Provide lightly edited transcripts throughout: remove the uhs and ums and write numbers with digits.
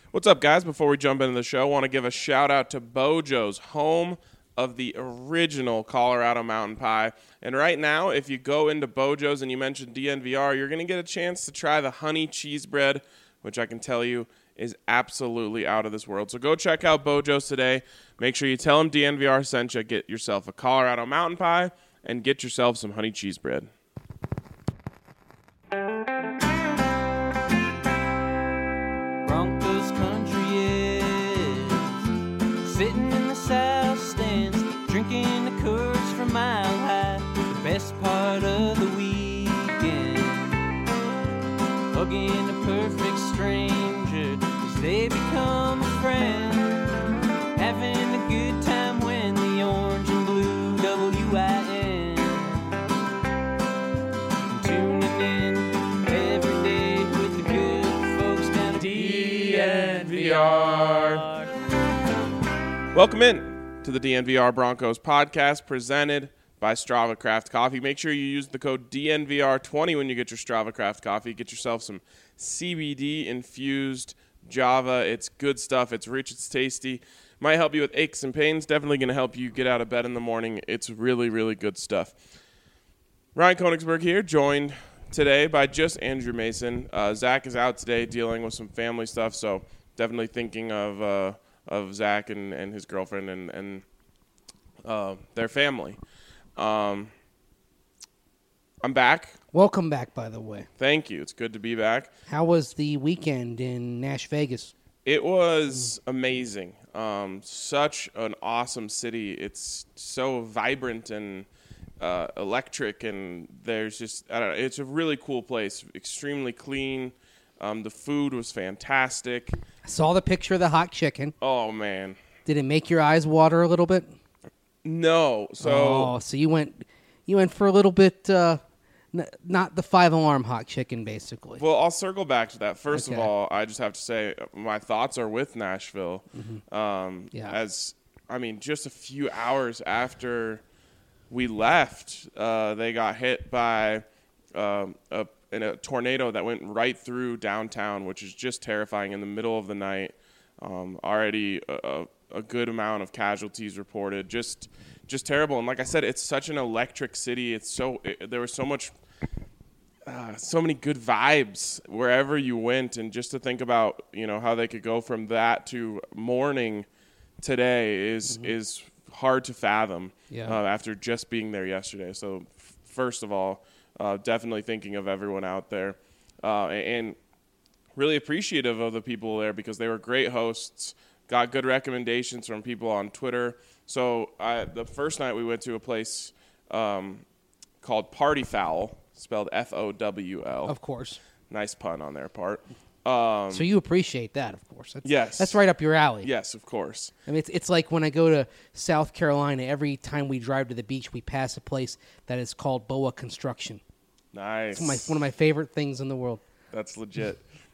What's up, guys? Before we jump into the show, I want to give a shout-out to Bojo's, home of the original Colorado Mountain Pie. And right now, if you go into Bojo's and you mention DNVR, you're going to get a chance to try the honey cheese bread, which I can tell you is absolutely out of this world. So go check out Bojo's today. Make sure you tell them DNVR sent you. Get yourself a Colorado Mountain Pie and get yourself some honey cheese bread. Broncos country is sitting in the south stands, drinking the Coors from Mile High. The best part of the weekend, hugging a perfect stranger as they become a friend, having a good time when the orange and blue WIN, tuning in every day with the good folks down at DNVR. Welcome in to the DNVR Broncos podcast presented by Strava Craft Coffee. Make sure you use the code DNVR20 when you get your Strava Craft Coffee. Get yourself some CBD-infused Java. It's good stuff. It's rich. It's tasty. Might help you with aches and pains. Definitely going to help you get out of bed in the morning. It's really, really good stuff. Ryan Koenigsberg here, joined today by just Andrew Mason. Zach is out today dealing with some family stuff, so definitely thinking of Zach and his girlfriend and their family. I'm back. Welcome back, by the way. Thank you. It's good to be back. How was the weekend in Nash Vegas? It was amazing. Such an awesome city. It's so vibrant and electric, and there's just, I don't know, it's a really cool place. Extremely clean. The food was fantastic. I saw the picture of the hot chicken. Oh, man. Did it make your eyes water a little bit? No. So you went for a little bit, not the 5-alarm hot chicken, basically. Well, I'll circle back to that. First of Okay. all, I just have to say my thoughts are with Nashville. Yeah. As I mean, just a few hours after we left, they got hit by a tornado that went right through downtown, which is just terrifying in the middle of the night. Already a good amount of casualties reported. Just terrible. And like I said, it's such an electric city. There was so many good vibes wherever you went, and just to think about how they could go from that to mourning today is hard to fathom. Yeah. After just being there yesterday. So first of all, definitely thinking of everyone out there, and really appreciative of the people there because they were great hosts. Got good recommendations from people on Twitter. So the first night we went to a place called Party Fowl, spelled FOWL. Of course. Nice pun on their part. So you appreciate that, of course. Yes. That's right up your alley. Yes, of course. I mean, it's like when I go to South Carolina, every time we drive to the beach, we pass a place that is called Boa Construction. Nice. It's one of my favorite things in the world. That's legit.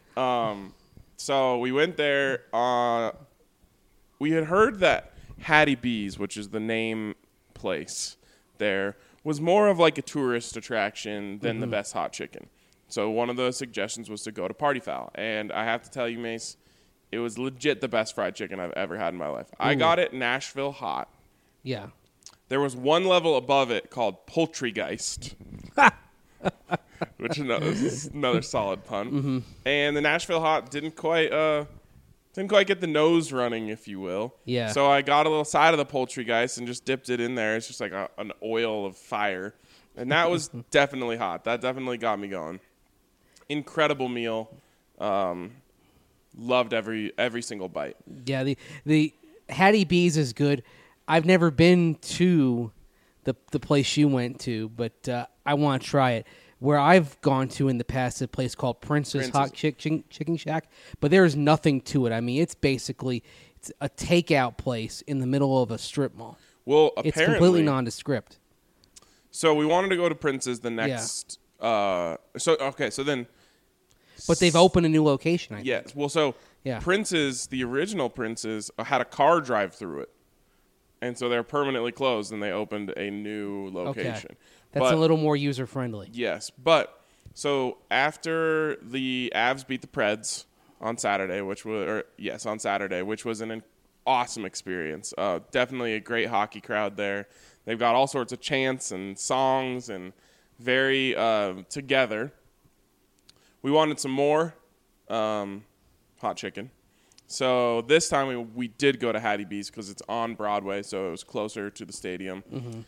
So we went there. We had heard that Hattie B's, which is the name place there, was more of like a tourist attraction than the best hot chicken. So one of the suggestions was to go to Party Fowl. And I have to tell you, Mace, it was legit the best fried chicken I've ever had in my life. I got it Nashville hot. Yeah. There was one level above it called Poultrygeist, which is another solid pun. And the Nashville hot didn't quite get the nose running, if you will. Yeah. So I got a little side of the Poultrygeist and just dipped it in there. It's just like an oil of fire. And that was definitely hot. That definitely got me going. Incredible meal. Loved every single bite. Yeah, the Hattie B's is good. I've never been to the place you went to, but I want to try it. Where I've gone to in the past, a place called Prince's Hot Chicken Shack, but there's nothing to it. I mean, it's a takeout place in the middle of a strip mall. Well, apparently, it's completely nondescript. So we wanted to go to Prince's the next. Yeah. So then. But they've opened a new location. I think. Yes. Well, so yeah. Prince's, the original Prince's, had a car drive through it. And so they're permanently closed, and they opened a new location. Okay. That's a little more user-friendly. Yes. But, so after the Avs beat the Preds, on Saturday, which was an awesome experience. Definitely a great hockey crowd there. They've got all sorts of chants and songs and very together. We wanted some more hot chicken. So this time we did go to Hattie B's because it's on Broadway, so it was closer to the stadium. Mm-hmm.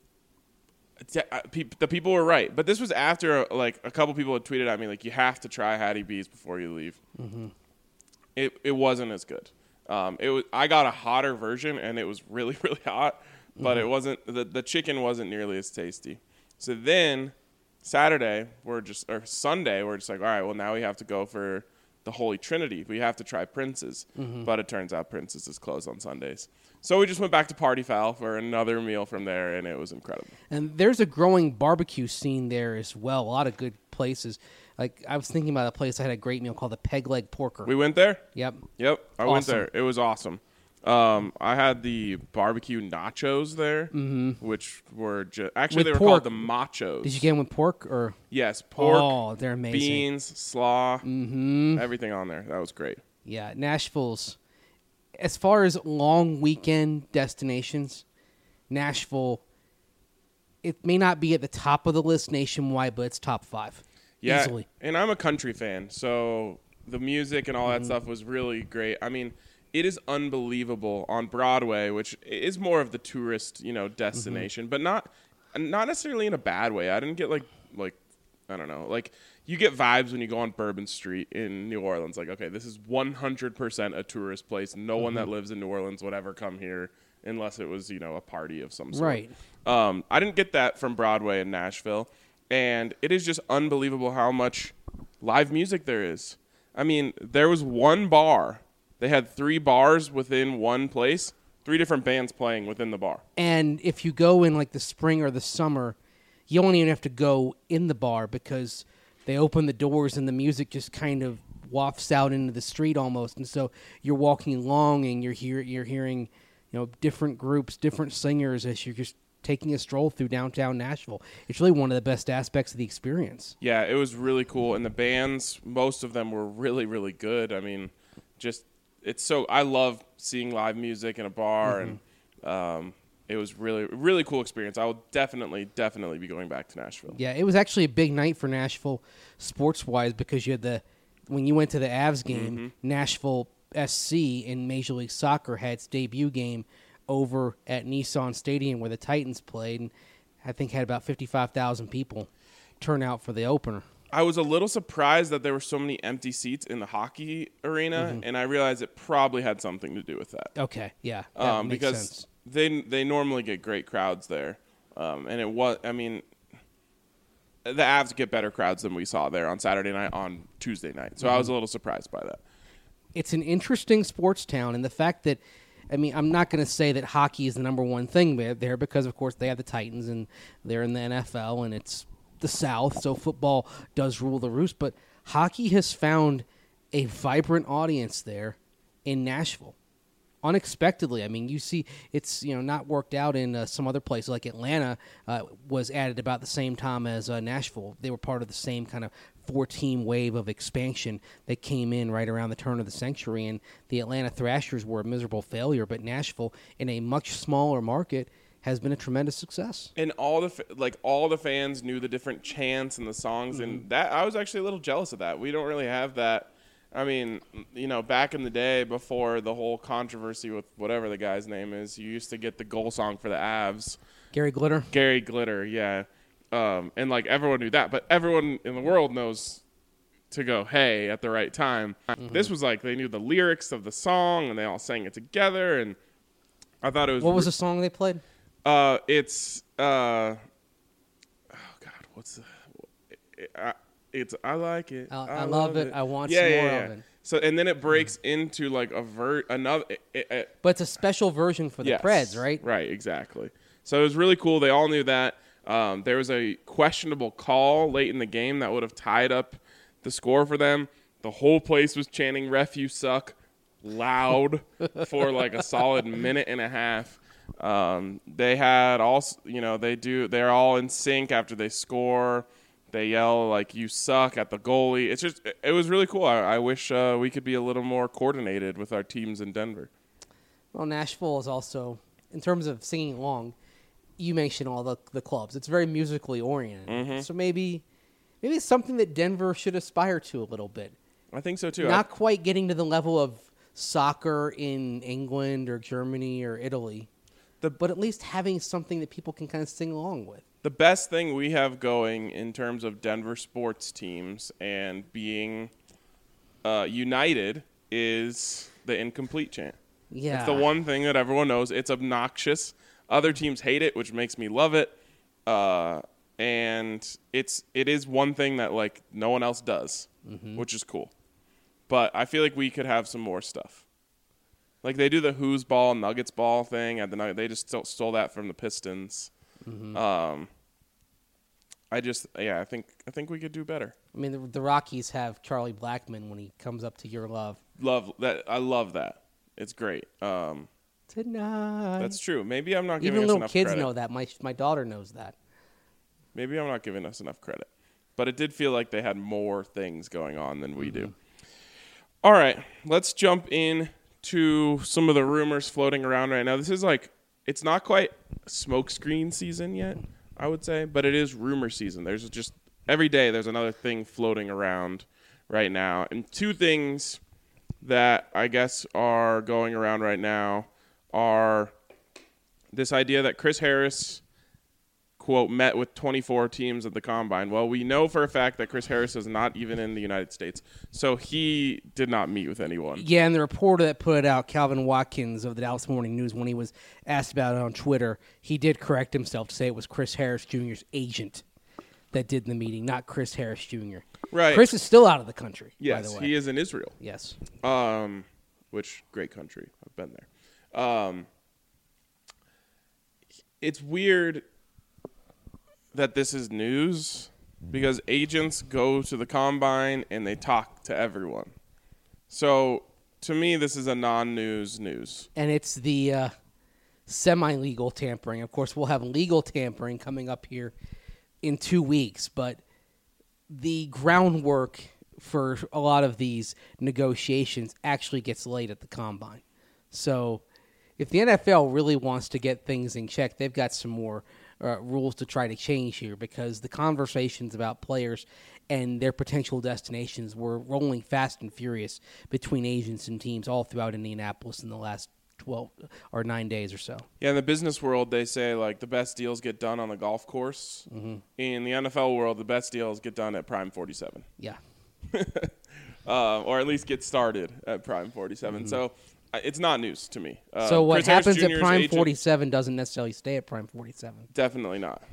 The people were right, but this was after like a couple people had tweeted at me like, you have to try Hattie B's before you leave. Mm-hmm. It wasn't as good. I got a hotter version and it was really, really hot, but it wasn't the chicken wasn't nearly as tasty. So then Sunday we're just like, all right, well now we have to go for the Holy Trinity. We have to try Prince's, but it turns out Prince's is closed on Sundays. So we just went back to Party Foul for another meal from there, and it was incredible. And there's a growing barbecue scene there as well. A lot of good places. Like I was thinking about a place I had a great meal called the Peg Leg Porker. We went there? Yep. I went there. It was awesome. I had the barbecue nachos there, which were actually they were called the machos. Did you get them with pork or? Yes, pork. Oh, they're amazing. Beans, slaw, everything on there. That was great. Yeah, Nashville's. As far as long weekend destinations, Nashville, it may not be at the top of the list nationwide, but it's top 5. Yeah, easily. And I'm a country fan, so the music and all that stuff was really great. I mean, it is unbelievable on Broadway, which is more of the tourist, destination, but not necessarily in a bad way. I didn't get like I don't know, like you get vibes when you go on Bourbon Street in New Orleans. Like, okay, this is 100% a tourist place. No one that lives in New Orleans would ever come here unless it was, a party of some sort. Right. I didn't get that from Broadway in Nashville, and it is just unbelievable how much live music there is. I mean, there was one bar. They had 3 bars within one place, 3 different bands playing within the bar. And if you go in like the spring or the summer, you don't even have to go in the bar because they open the doors and the music just kind of wafts out into the street almost. And so you're walking along and you're hearing, different groups, different singers as you're just taking a stroll through downtown Nashville. It's really one of the best aspects of the experience. Yeah, it was really cool. And the bands, most of them were really, really good. I mean, I love seeing live music in a bar, and it was really, really cool experience. I will definitely be going back to Nashville. Yeah, it was actually a big night for Nashville sports-wise because you had when you went to the Avs game, Nashville SC in Major League Soccer had its debut game over at Nissan Stadium where the Titans played, and I think had about 55,000 people turn out for the opener. I was a little surprised that there were so many empty seats in the hockey arena, and I realized it probably had something to do with that. Okay, yeah, that makes because sense. they normally get great crowds there, and it was. I mean, the Avs get better crowds than we saw there on Saturday night, on Tuesday night. So I was a little surprised by that. It's an interesting sports town, and the fact that, I mean, I'm not going to say that hockey is the number one thing there because, of course, they have the Titans, and they're in the NFL, and it's the South, so football does rule the roost. But hockey has found a vibrant audience there in Nashville. Unexpectedly. I mean, you see it's, not worked out in some other places. Like Atlanta was added about the same time as Nashville. They were part of the same kind of 4-team wave of expansion that came in right around the turn of the century, and the Atlanta Thrashers were a miserable failure, but Nashville, in a much smaller market, has been a tremendous success. And all the fans knew the different chants and the songs, and that I was actually a little jealous of that. We don't really have that. I mean, back in the day before the whole controversy with whatever the guy's name is, you used to get the goal song for the Avs. Gary Glitter, yeah. And everyone knew that, but everyone in the world knows to go hey at the right time. This was they knew the lyrics of the song and they all sang it together, and I thought it was. What was the song they played? It's oh God, what's it's I like it. I love it. I want some more of it. So and then it breaks into another. But it's a special version for the Preds, right? Right, exactly. So it was really cool. They all knew that. There was a questionable call late in the game that would have tied up the score for them. The whole place was chanting "Ref, you suck" loud for a solid minute and a half. They had also, they're all in sync after they score. They yell like "you suck" at the goalie. It was really cool. I wish we could be a little more coordinated with our teams in Denver. Well, Nashville is also, in terms of singing along, you mentioned all the clubs. It's very musically oriented. Mm-hmm. So maybe it's something that Denver should aspire to a little bit. I think so too. Not quite getting to the level of soccer in England or Germany or Italy, but at least having something that people can kind of sing along with. The best thing we have going in terms of Denver sports teams and being united is the incomplete chant. Yeah. It's the one thing that everyone knows. It's obnoxious. Other teams hate it, which makes me love it. And it is one thing that like no one else does, which is cool. But I feel like we could have some more stuff. Like they do the Who's Ball, Nuggets Ball thing at the Nuggets. They just stole that from the Pistons. I think we could do better. I mean, the Rockies have Charlie Blackmon when he comes up to Your Love. Love that. I love that. It's great. Tonight. That's true. Maybe I'm not giving Even us little enough kids credit. know that. My daughter knows that. Maybe I'm not giving us enough credit. But it did feel like they had more things going on than we do. All right. Let's jump in to some of the rumors floating around right now. This is it's not quite smokescreen season yet, I would say, but it is rumor season. There's just every day there's another thing floating around right now. And two things that I guess are going around right now are this idea that Chris Harris, quote, met with 24 teams at the Combine. Well, we know for a fact that Chris Harris is not even in the United States, so he did not meet with anyone. Yeah, and the reporter that put it out, Calvin Watkins of the Dallas Morning News, when he was asked about it on Twitter, he did correct himself to say it was Chris Harris Jr.'s agent that did the meeting, not Chris Harris Jr. Right. Chris is still out of the country, Yes, by the way. he is in Israel. Yes. Which great country. I've been there. It's weird that this is news because agents go to the Combine and they talk to everyone. So to me, this is a non-news news. And it's the semi-legal tampering. Of course, we'll have legal tampering coming up here in 2 weeks, but the groundwork for a lot of these negotiations actually gets laid at the Combine. So if the NFL really wants to get things in check, they've got some more rules to try to change here because the conversations about players and their potential destinations were rolling fast and furious between agents and teams all throughout Indianapolis in the last 12 or 9 days or so. Yeah, in the business world, they say like the best deals get done on the golf course. Mm-hmm. In the NFL world, the best deals get done at Prime 47. Yeah. Or at least get started at Prime 47. Mm-hmm. So it's not news to me. So what Chris Harris happens Jr.'s at Prime agent, 47 doesn't necessarily stay at Prime 47. Definitely not.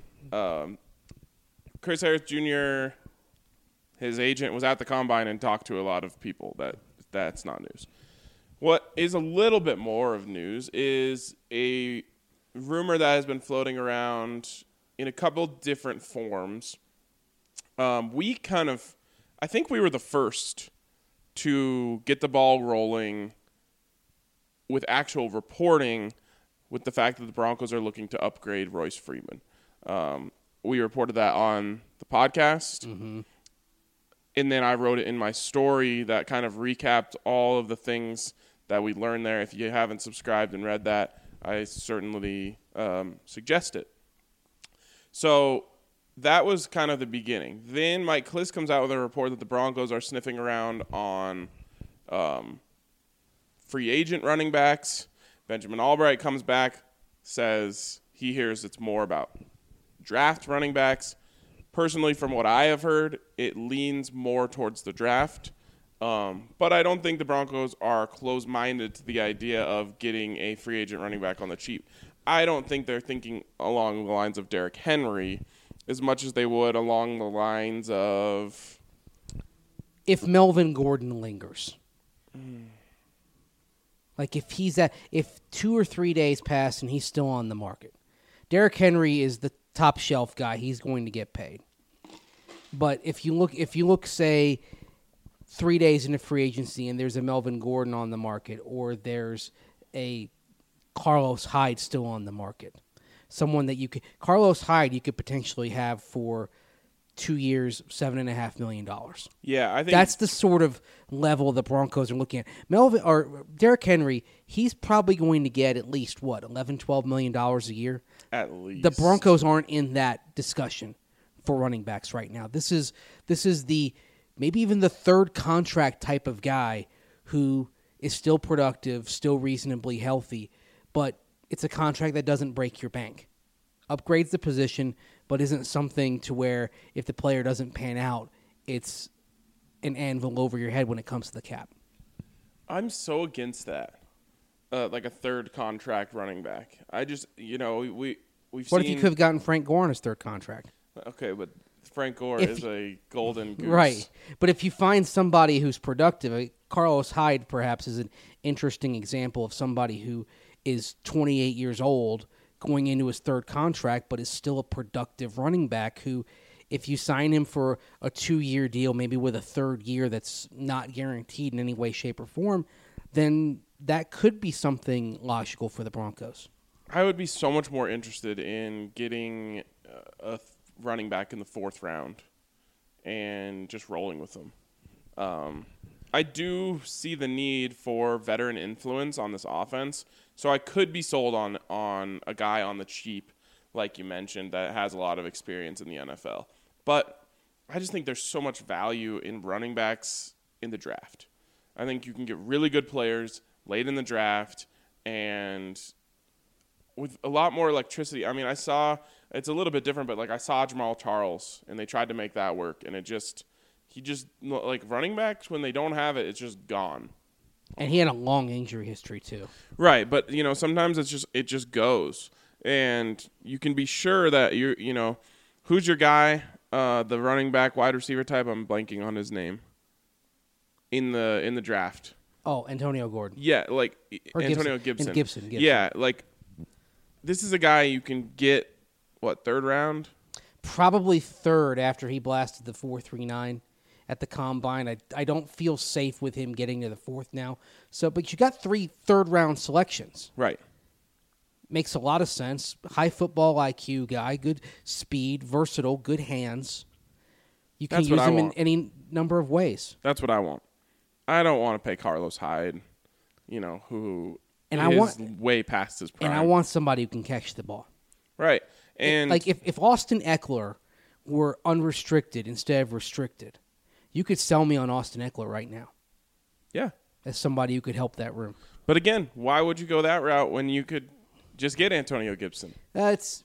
Chris Harris Jr., his agent, was at the Combine and talked to a lot of people. That's not news. What is a little bit more of news is a rumor that has been floating around in a couple different forms. I think we were the first to get the ball rolling with actual reporting with the fact that the Broncos are looking to upgrade Royce Freeman. We reported that on the podcast. Mm-hmm. And then I wrote it in my story that kind of recapped all of the things that we learned there. If you haven't subscribed and read that, I certainly suggest it. So that was kind of the beginning. Then Mike Klis comes out with a report that the Broncos are sniffing around on free agent running backs. Benjamin Albright comes back, says he hears it's more about draft running backs. Personally, from what I have heard, it leans more towards the draft. But I don't think the Broncos are close-minded to the idea of getting a free agent running back on the cheap. I don't think they're thinking along the lines of Derrick Henry as much as they would along the lines of... If Melvin Gordon lingers. Like if 2 or 3 days pass and he's still on the market. Derrick Henry is the top shelf guy. He's going to get paid. But if you look, say, 3 days into free agency and there's a Melvin Gordon on the market or there's a Carlos Hyde still on the market, someone that Carlos Hyde you could potentially have for 2 years, $7.5 million. Yeah, I think That's the sort of level the Broncos are looking at. Melvin or Derrick Henry, he's probably going to get at least what, $11-12 million a year. at least The Broncos aren't in that discussion for running backs right now. This is the maybe even the third contract type of guy who is still productive, still reasonably healthy, but it's a contract that doesn't break your bank. Upgrades the position, but isn't something to where if the player doesn't pan out, it's an anvil over your head when it comes to the cap. I'm so against that. Like a third contract running back. I just, we've What seen. if you could have gotten Frank Gore on his third contract? Okay, but Frank Gore If is a golden goose. Right. But if you find somebody who's productive, Carlos Hyde perhaps is an interesting example of somebody who is 28 years old going into his third contract, but is still a productive running back who, if you sign him for a 2-year deal, maybe with a third year that's not guaranteed in any way, shape, or form, then that could be something logical for the Broncos. I would be so much more interested in getting running back in the 4th round and just rolling with them. I do see the need for veteran influence on this offense, so I could be sold on a guy on the cheap, like you mentioned, that has a lot of experience in the NFL. But I just think there's so much value in running backs in the draft. I think you can get really good players late in the draft and with a lot more electricity. I mean, I saw – it's a little bit different, but, like, I saw Jamal Charles, and they tried to make that work, and he just like running backs, when they don't have it, it's just gone. And he had a long injury history, too. Right, but, sometimes it just goes. And you can be sure that who's your guy, the running back, wide receiver type? I'm blanking on his name. In the draft. Oh, Antonio Gordon. Yeah, like Or Antonio Gibson. Gibson. Yeah, like this is a guy you can get, what, 3rd round? Probably 3rd after he blasted the 4.39 at the combine. I don't feel safe with him getting to the 4th now. So, but you got 3 third-round selections. Right. Makes a lot of sense. High football IQ guy, good speed, versatile, good hands. You can That's what use I him in want. any number of ways. That's what I want. I don't want to pay Carlos Hyde, who And is way past his prime. And I want somebody who can catch the ball. Right. And Like if Austin Eckler were unrestricted instead of restricted, you could sell me on Austin Eckler right now yeah. as somebody who could help that room. But again, why would you go that route when you could just get Antonio Gibson? It's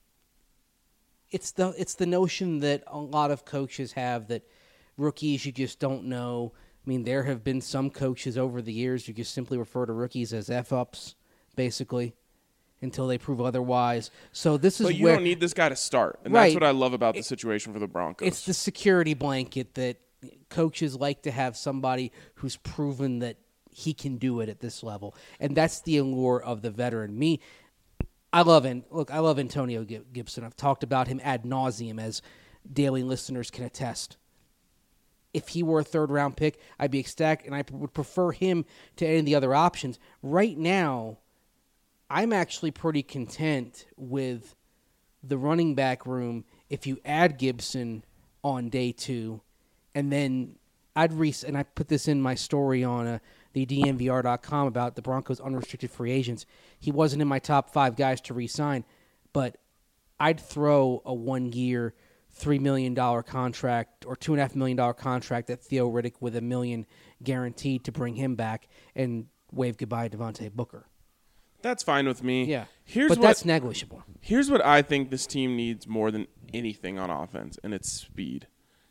the notion that a lot of coaches have that rookies you just don't know. I mean, there have been some coaches over the years who just simply refer to rookies as F-ups, basically, until they prove otherwise. So this is But you where don't need this guy to start. And Right. that's what I love about the situation for the Broncos. it's the security blanket that coaches like to have somebody who's proven that he can do it at this level. And that's the allure of the veteran. I love Antonio Gibson. I've talked about him ad nauseum, as daily listeners can attest. If he were a 3rd-round pick, I'd be ecstatic, and I would prefer him to any of the other options. Right now, I'm actually pretty content with the running back room if you add Gibson on day 2, and then and I put this in my story on the DNVR.com about the Broncos' unrestricted free agents. He wasn't in my top 5 guys to re-sign, but I'd throw a 1-year, $3 million contract or $2.5 million contract at Theo Riddick with $1 million guaranteed to bring him back and wave goodbye to Devontae Booker. That's fine with me. Yeah, Here's that's negligible. Here's what I think this team needs more than anything on offense, and it's speed.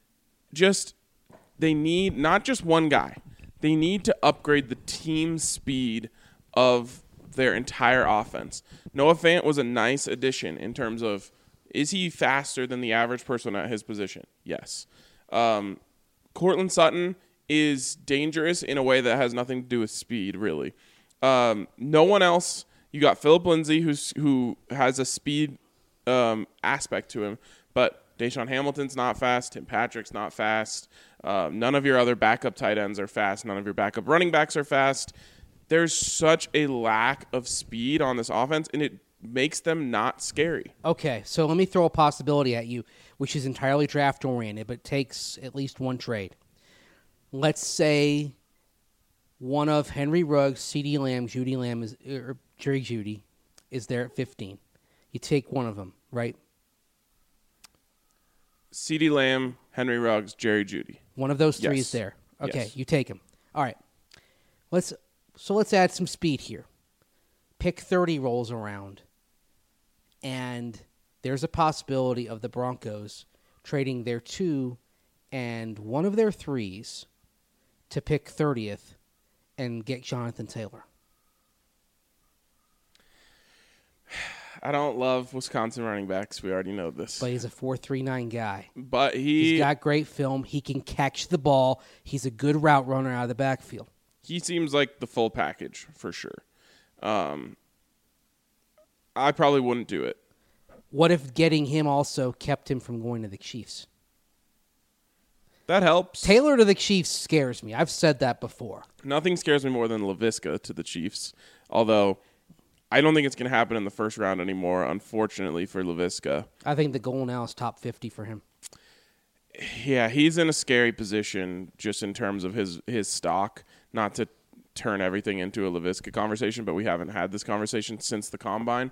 They need not just one guy. They need to upgrade the team speed of their entire offense. Noah Fant was a nice addition in terms of, is he faster than the average person at his position? Yes. Courtland Sutton is dangerous in a way that has nothing to do with speed, really. No one else. You got Phillip Lindsay, who has a speed aspect to him, but Deshaun Hamilton's not fast. Tim Patrick's not fast. None of your other backup tight ends are fast. None of your backup running backs are fast. There's such a lack of speed on this offense, and it makes them not scary. Okay, so let me throw a possibility at you, which is entirely draft oriented, but takes at least one trade. Let's say one of Henry Ruggs, CeeDee Lamb, Judy Lamb, or Jerry Jeudy is there at 15. You take one of them, right? CeeDee Lamb, Henry Ruggs, Jerry Jeudy. One of those three Yes. is there. Okay, Yes. you take him. All right. Let's add some speed here. Pick 30 rolls around, and there's a possibility of the Broncos trading their 2 and one of their 3s to pick 30th and get Jonathan Taylor. I don't love Wisconsin running backs. We already know this. But he's a 4.39 guy. But He's got great film. He can catch the ball. He's a good route runner out of the backfield. he seems like the full package for sure. I probably wouldn't do it. What if getting him also kept him from going to the Chiefs? That helps. Taylor to the Chiefs scares me. I've said that before. Nothing scares me more than LaVisca to the Chiefs, although I don't think it's going to happen in the first round anymore, unfortunately, for LaVisca. I think the goal now is top 50 for him. Yeah, he's in a scary position just in terms of his stock. Not to turn everything into a LaVisca conversation, but we haven't had this conversation since the Combine.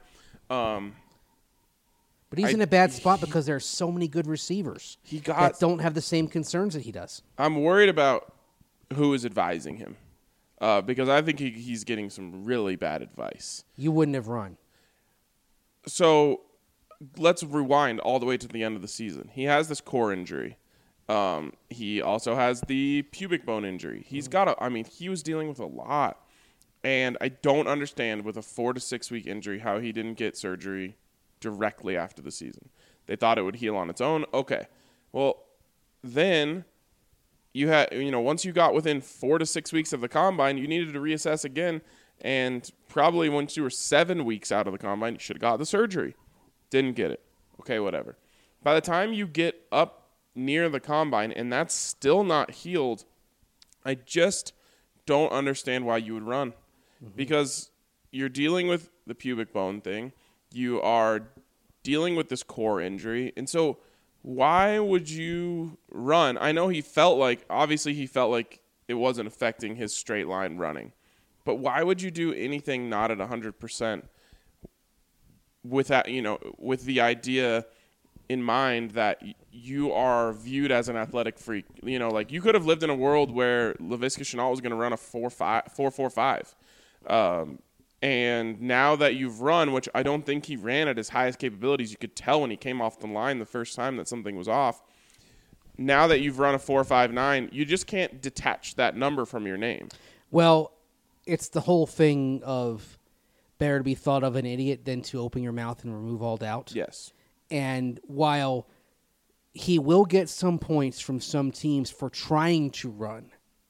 But he's in a bad spot because there are so many good receivers that don't have the same concerns that he does. I'm worried about who is advising him because I think he's getting some really bad advice. You wouldn't have run. So let's rewind all the way to the end of the season. He has this core injury. He also has the pubic bone injury. He's got he was dealing with a lot. And I don't understand with a 4 to 6 week injury how he didn't get surgery directly after the season. They thought it would heal on its own. Okay. Well, then you had, once you got within 4 to 6 weeks of the Combine, you needed to reassess again. And probably once you were 7 weeks out of the Combine, you should have got the surgery. Didn't get it. Okay, whatever. By the time you get up near the Combine and that's still not healed, I just don't understand why you would run. Because you're dealing with the pubic bone thing. You are dealing with this core injury. And so why would you run? I know he felt like it wasn't affecting his straight line running. But why would you do anything not at 100% with that, with the idea in mind that you are viewed as an athletic freak? You could have lived in a world where Laviska Shenault was going to run a 4.45. And now that you've run, which I don't think he ran at his highest capabilities, you could tell when he came off the line the first time that something was off. Now that you've run a 4.59, you just can't detach that number from your name. Well, it's the whole thing of better to be thought of an idiot than to open your mouth and remove all doubt. Yes. And while he will get some points from some teams for trying to run,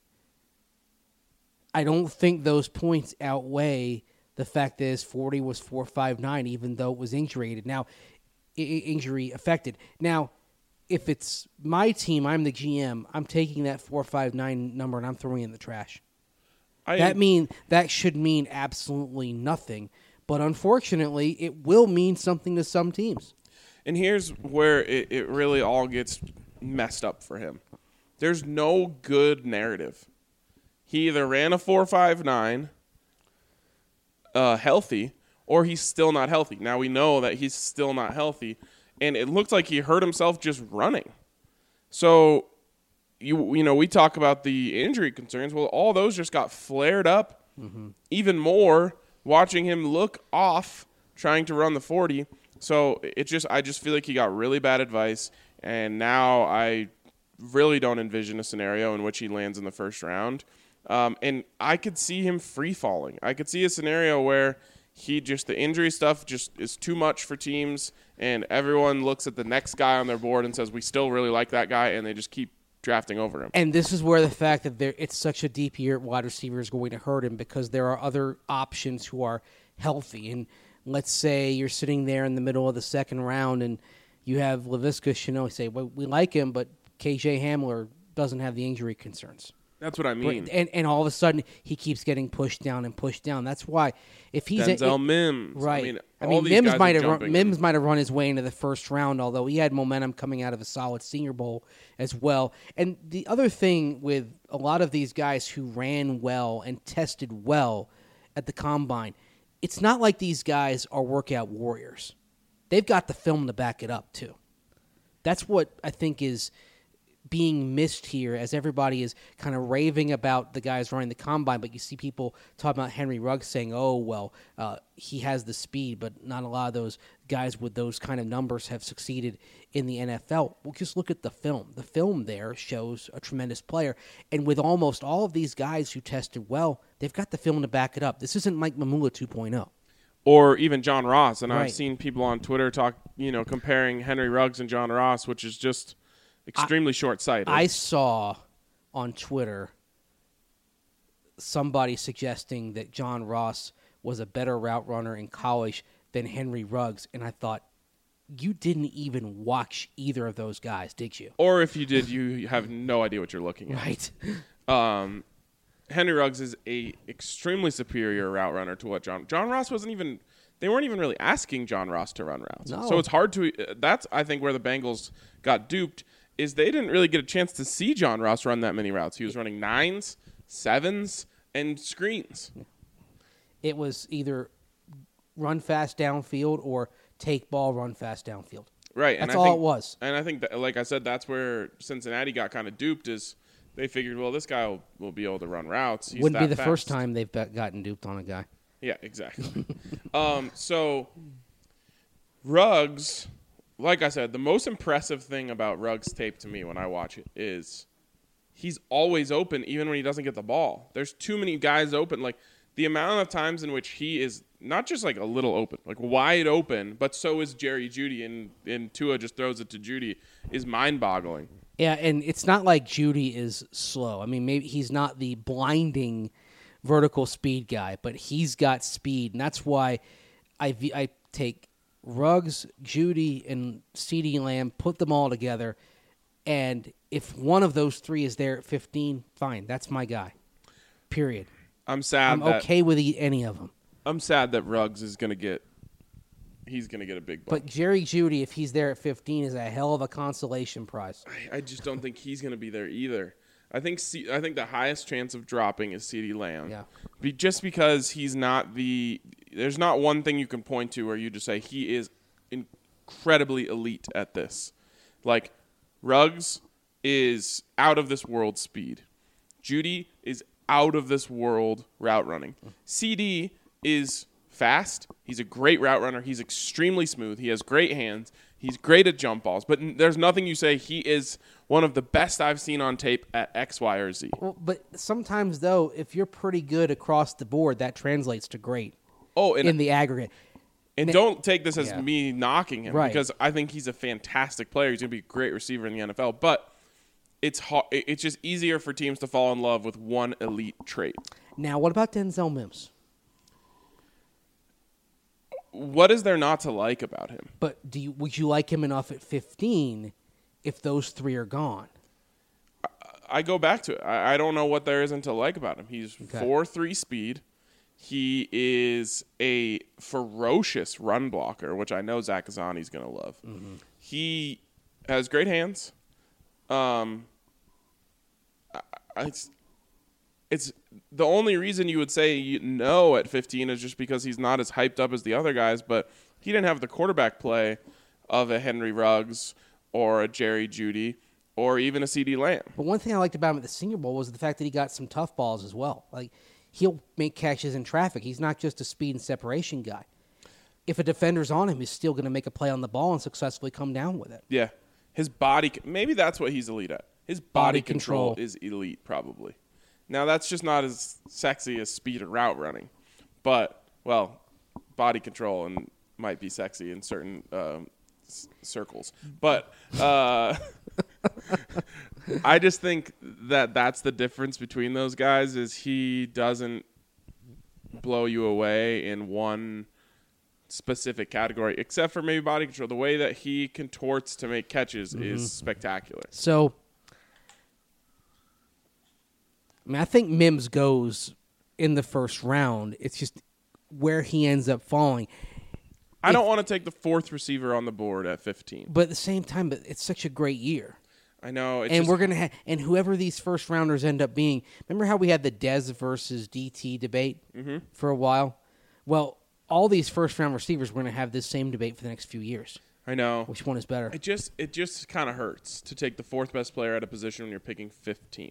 I don't think those points outweigh the fact that his 40 was 4.59, even though it was injury affected. Now, if it's my team, I'm the GM, I'm taking that 4.59 number and I'm throwing it in the trash. That should mean absolutely nothing, but unfortunately, it will mean something to some teams. And here's where it really all gets messed up for him. There's no good narrative. He either ran a 4.59 healthy, or he's still not healthy. Now we know that he's still not healthy, and it looks like he hurt himself just running. So, we talk about the injury concerns. Well, all those just got flared up even more watching him look off trying to run the 40. So I just feel like he got really bad advice, and now I really don't envision a scenario in which he lands in the first round. And I could see him free falling. I could see a scenario where the injury stuff just is too much for teams, and everyone looks at the next guy on their board and says, we still really like that guy, and they just keep drafting over him. And this is where the fact that it's such a deep year at wide receiver is going to hurt him, because there are other options who are healthy. And let's say you're sitting there in the middle of the second round and you have Laviska Shenault say, well, we like him, but KJ Hamler doesn't have the injury concerns. That's what I mean. And all of a sudden, he keeps getting pushed down and pushed down. That's why if he's Denzel Mims. right. All these guys Mims might have run his way into the first round, although he had momentum coming out of a solid Senior Bowl as well. And the other thing with a lot of these guys who ran well and tested well at the combine, it's not like these guys are workout warriors. They've got the film to back it up too. That's what I think is being missed here, as everybody is kind of raving about the guys running the combine, but you see people talking about Henry Ruggs saying, oh, well, he has the speed, but not a lot of those guys with those kind of numbers have succeeded in the NFL. Well, just look at the film. The film there shows a tremendous player, and with almost all of these guys who tested well, they've got the film to back it up. This isn't Mike Mamula 2.0. Or even John Ross, and Right. I've seen people on Twitter talk, comparing Henry Ruggs and John Ross, which is just extremely short-sighted. I saw on Twitter somebody suggesting that John Ross was a better route runner in college than Henry Ruggs, and I thought, you didn't even watch either of those guys, did you? Or if you did, you have no idea what you're looking at. Right. Henry Ruggs is a extremely superior route runner to what John Ross wasn't even. They weren't even really asking John Ross to run routes. No. So it's hard to. That's I think where the Bengals got duped is they didn't really get a chance to see John Ross run that many routes. He was running 9s, 7s, and screens. It was either run fast downfield or take ball, run fast downfield. Right. That's and I all think, it was. And I think, that, like I said, that's where Cincinnati got kind of duped is they figured, well, this guy will be able to run routes. He's Wouldn't be that the fast. first time they've gotten duped on a guy. Yeah, exactly. So Ruggs, like I said, the most impressive thing about Ruggs' tape to me when I watch it is he's always open even when he doesn't get the ball. There's too many guys open. Like the amount of times in which he is not just like a little open, like wide open, but so is Jerry Jeudy, and Tua just throws it to Jeudy, is mind-boggling. Yeah, and it's not like Jeudy is slow. I mean, maybe he's not the blinding vertical speed guy, but he's got speed, and that's why I take Ruggs, Jeudy, and CeeDee Lamb, put them all together, and if one of those three is there at 15, fine, that's my guy. Period. I'm sad. I'm okay with any of them. I'm sad that Ruggs is going to get. He's going to get a big bump. But Jerry Jeudy, if he's there at 15, is a hell of a consolation prize. I just don't think he's going to be there either. I think the highest chance of dropping is CeeDee Lamb. Yeah. Just because he's not there's not one thing you can point to where you just say he is incredibly elite at this. Like Ruggs is out of this world speed. Jeudy is out of this world route running. CD is fast. He's a great route runner. He's extremely smooth. He has great hands. He's great at jump balls. But there's nothing you say he is one of the best I've seen on tape at X, Y, or Z. Well, but sometimes, though, if you're pretty good across the board, that translates to great in the aggregate. And don't take this as Yeah. me knocking him, Right. because I think he's a fantastic player. He's going to be a great receiver in the NFL. But it's just easier for teams to fall in love with one elite trait. Now, what about Denzel Mims? What is there not to like about him? But would you like him enough at 15 if those three are gone? I go back to it. I don't know what there isn't to like about him. He's 4.3 speed. He is a ferocious run blocker, which I know Zach Kazani's going to love. Mm-hmm. He has great hands. It's the only reason you would say no at 15 is just because he's not as hyped up as the other guys, but he didn't have the quarterback play of a Henry Ruggs or a Jerry Jeudy or even a CeeDee Lamb. But one thing I liked about him at the Senior Bowl was the fact that he got some tough balls as well. Like, he'll make catches in traffic. He's not just a speed and separation guy. If a defender's on him, he's still going to make a play on the ball and successfully come down with it. Yeah. His body, maybe that's what he's elite at. His body control is elite, probably. Now, that's just not as sexy as speed or route running. But, well, body control might be sexy in certain circles. But I just think that that's the difference between those guys is he doesn't blow you away in one specific category, except for maybe body control. The way that he contorts to make catches is spectacular. So, I mean, I think Mims goes in the first round. It's just where he ends up falling. I don't want to take the fourth receiver on the board at 15. But at the same time, it's such a great year. I know. And we're gonna and whoever these first rounders end up being. Remember how we had the Dez versus DT debate for a while? Well, all these first round receivers, we're gonna have this same debate for the next few years. I know. Which one is better? It just kind of hurts to take the fourth best player at a position when you're picking 15th.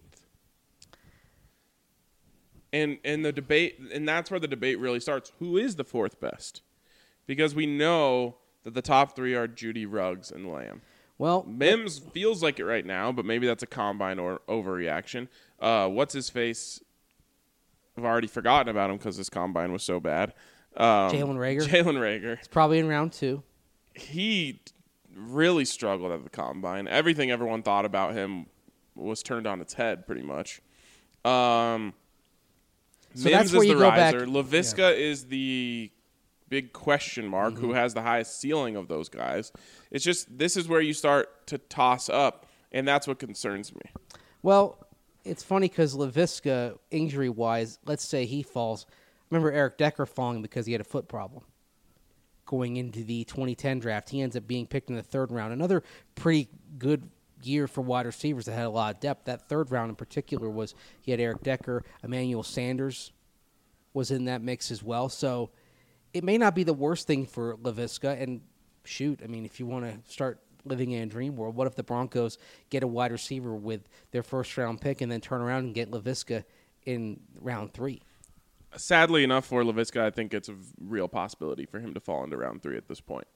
And the debate, and that's where the debate really starts. Who is the fourth best? Because we know that the top three are Judy, Ruggs, and Lamb. Well, Mims feels like it right now, but maybe that's a combine or overreaction. What's his face? I've already forgotten about him because his combine was so bad. Jalen Reagor. Jalen Reagor. It's probably in round 2. He really struggled at the combine. Everything everyone thought about him was turned on its head, pretty much. So Mims that's where is you the go riser. back. Laviska is the big question mark, who has the highest ceiling of those guys. It's just this is where you start to toss up, and that's what concerns me. Well, it's funny because Laviska, injury-wise, let's say he falls. Remember Eric Decker falling because he had a foot problem. Going into the 2010 draft, he ends up being picked in the 3rd round. Another pretty good year for wide receivers that had a lot of depth. That 3rd round in particular was he had Eric Decker, Emmanuel Sanders was in that mix as well. So it may not be the worst thing for Laviska. And shoot, I mean, if you want to start living in a dream world, what if the Broncos get a wide receiver with their first-round pick and then turn around and get Laviska in round 3? Sadly enough for Laviska, I think it's a real possibility for him to fall into round 3 at this point.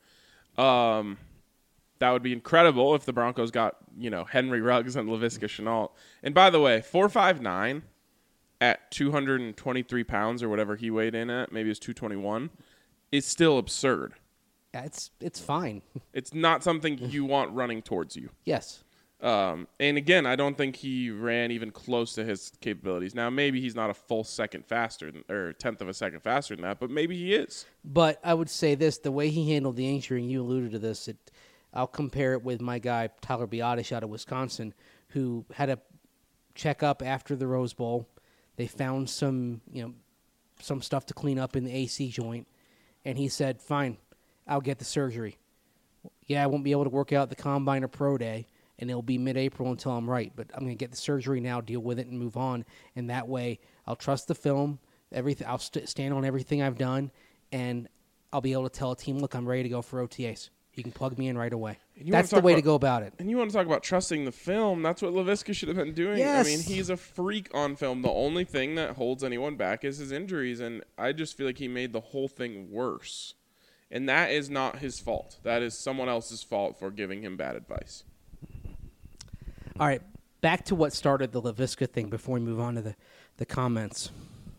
That would be incredible if the Broncos got, Henry Ruggs and Laviska Shenault. And by the way, 4.59 at 223 pounds or whatever he weighed in at, maybe it was 221, is still absurd. Yeah, it's fine. It's not something you want running towards you. Yes. And again, I don't think he ran even close to his capabilities. Now, maybe he's not a full second faster or 1/10 of a second faster than that, but maybe he is. But I would say this, the way he handled the injury, and you alluded to this, I'll compare it with my guy, Tyler Biadasz out of Wisconsin, who had a checkup after the Rose Bowl. They found some stuff to clean up in the AC joint, and he said, fine, I'll get the surgery. Yeah, I won't be able to work out the combine or pro day, and it'll be mid-April until I'm right. But I'm going to get the surgery now, deal with it, and move on. And that way, I'll trust the film. Everything. I'll stand on everything I've done, and I'll be able to tell a team, look, I'm ready to go for OTAs. You can plug me in right away. That's the way to go about it. And you want to talk about trusting the film. That's what Laviska should have been doing. Yes. I mean, he's a freak on film. The only thing that holds anyone back is his injuries, and I just feel like he made the whole thing worse. And that is not his fault. That is someone else's fault for giving him bad advice. All right, back to what started the Laviska thing before we move on to the comments.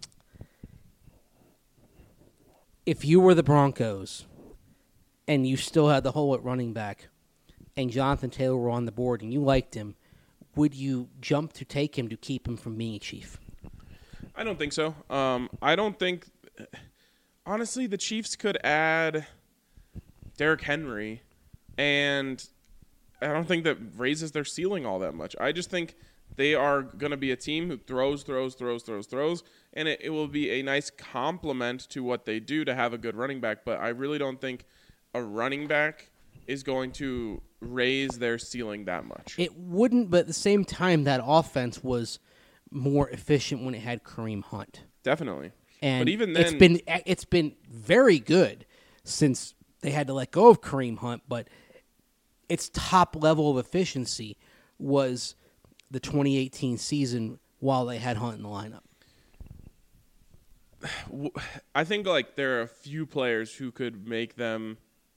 If you were the Broncos and you still had the hole at running back and Jonathan Taylor were on the board and you liked him, would you jump to take him to keep him from being a Chief? I don't think so. I don't think – honestly, the Chiefs could add Derrick Henry, and I don't think that raises their ceiling all that much. I just think they are going to be a team who throws, and it will be a nice complement to what they do to have a good running back. But I really don't think a running back is going to raise their ceiling that much. It wouldn't, but at the same time, that offense was more efficient when it had Kareem Hunt. Definitely. And but even then, it's been very good since they had to let go of Kareem Hunt, but its top level of efficiency was the 2018 season while they had Hunt in the lineup. I think there are a few players who could make them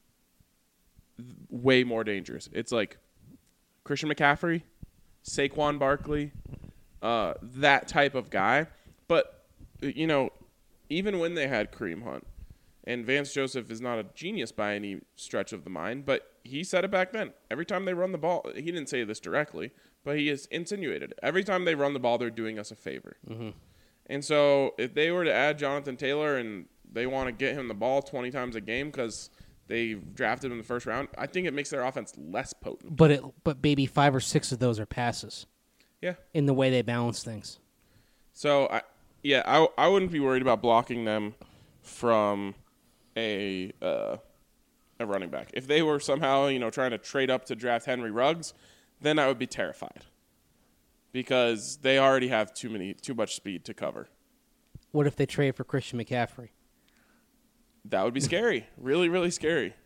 way more dangerous. It's like Christian McCaffrey, Saquon Barkley, that type of guy. But, even when they had Kareem Hunt, and Vance Joseph is not a genius by any stretch of the mind, but he said it back then. Every time they run the ball, he didn't say this directly, but he has insinuated it. Every time they run the ball, they're doing us a favor. Mm-hmm. And so if they were to add Jonathan Taylor and they want to get him the ball 20 times a game because they drafted him in the first round, I think it makes their offense less potent. But maybe 5 or 6 of those are passes. Yeah. In the way they balance things. So, I wouldn't be worried about blocking them from a running back. If they were somehow, trying to trade up to draft Henry Ruggs, then I would be terrified because they already have too much speed to cover. What if they trade for Christian McCaffrey? That would be scary. Really, really scary.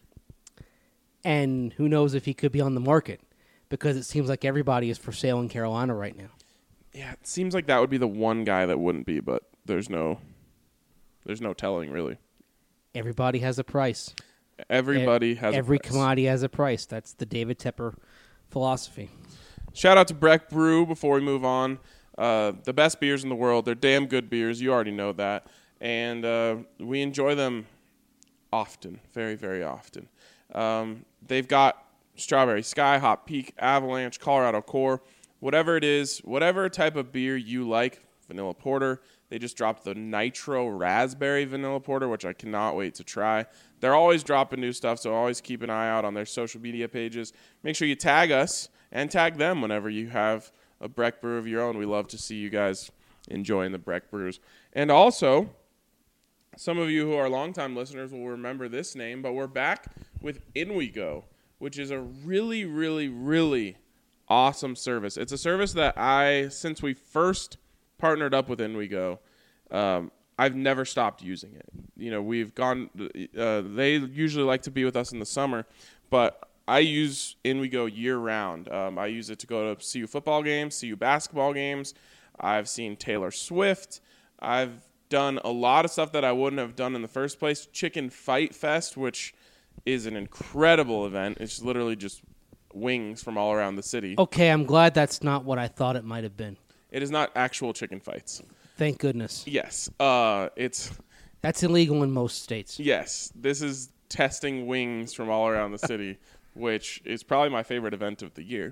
And who knows if he could be on the market because it seems like everybody is for sale in Carolina right now. Yeah, it seems like that would be the one guy that wouldn't be, but there's no telling really. Everybody has a price. Everybody has Every a price. commodity has a price. That's the David Tepper philosophy. Shout out to Breck Brew before we move on. The best beers in the world. They're damn good beers. You already know that. And we enjoy them often, very, very often. They've got Strawberry Sky, Hot Peak, Avalanche, Colorado Core. Whatever it is, whatever type of beer you like, vanilla porter. They just dropped the Nitro Raspberry Vanilla Porter, which I cannot wait to try. They're always dropping new stuff, so always keep an eye out on their social media pages. Make sure you tag us and tag them whenever you have a Breck Brew of your own. We love to see you guys enjoying the Breck Brews. And also, some of you who are longtime listeners will remember this name, but we're back with InWeGo, which is a really, really, really awesome service. It's a service that since we first partnered up with InWeGo, I've never stopped using it. We've gone, they usually like to be with us in the summer, but I use InWeGo year round. I use it to go to CU football games, CU basketball games. I've seen Taylor Swift. I've done a lot of stuff that I wouldn't have done in the first place. Chicken Fight Fest, which is an incredible event. It's literally just wings from all around the city. Okay, I'm glad that's not what I thought it might have been. It is not actual chicken fights. Thank goodness. Yes. That's illegal in most states. Yes. This is testing wings from all around the city, which is probably my favorite event of the year.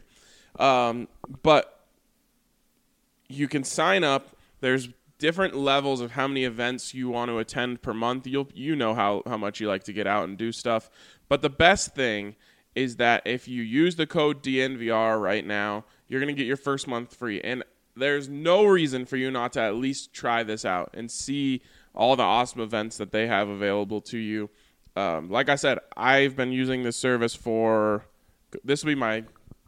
But you can sign up. There's different levels of how many events you want to attend per month. You know how much you like to get out and do stuff. But the best thing is that if you use the code DNVR right now, you're going to get your first month free. And there's no reason for you not to at least try this out and see all the awesome events that they have available to you. Like I said, I've been using this service this will be my,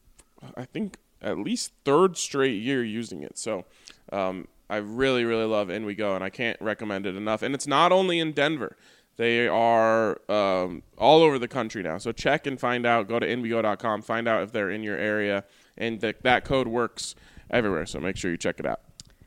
I think, at least third straight year using it. So I really, really love InWeGo, and I can't recommend it enough. And it's not only in Denver. They are all over the country now. So check and find out. Go to InWeGo.com. Find out if they're in your area. And that code works everywhere. So make sure you check it out.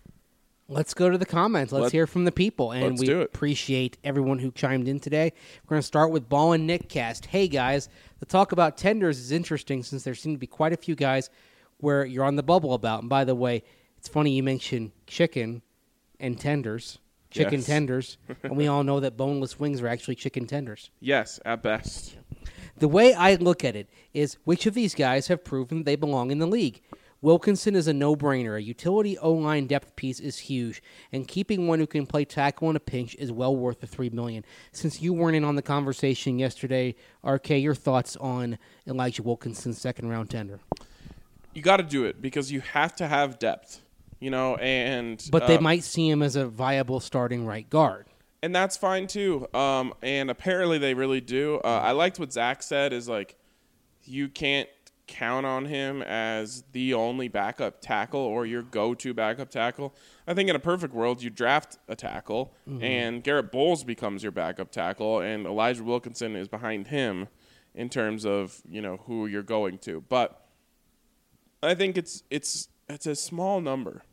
Let's go to the comments. Let's hear from the people. And we do it. appreciate everyone who chimed in today. We're going to start with Ball and Nick Cast. Hey, guys, the talk about tenders is interesting since there seem to be quite a few guys where you're on the bubble about. And by the way, it's funny you mentioned chicken and tenders. Chicken Yes. tenders. And we all know that boneless wings are actually chicken tenders. Yes, at best. The way I look at it is which of these guys have proven they belong in the league? Wilkinson is a no-brainer. A utility O-line depth piece is huge, and keeping one who can play tackle in a pinch is well worth the $3 million. Since you weren't in on the conversation yesterday, RK, your thoughts on Elijah Wilkinson's second-round tender? You got to do it because you have to have depth, and But they might see him as a viable starting right guard. And that's fine too. And apparently they really do. I liked what Zach said is you can't count on him as the only backup tackle or your go-to backup tackle. I think in a perfect world you draft a tackle and Garrett Bowles becomes your backup tackle and Elijah Wilkinson is behind him in terms of, who you're going to. But I think it's a small number.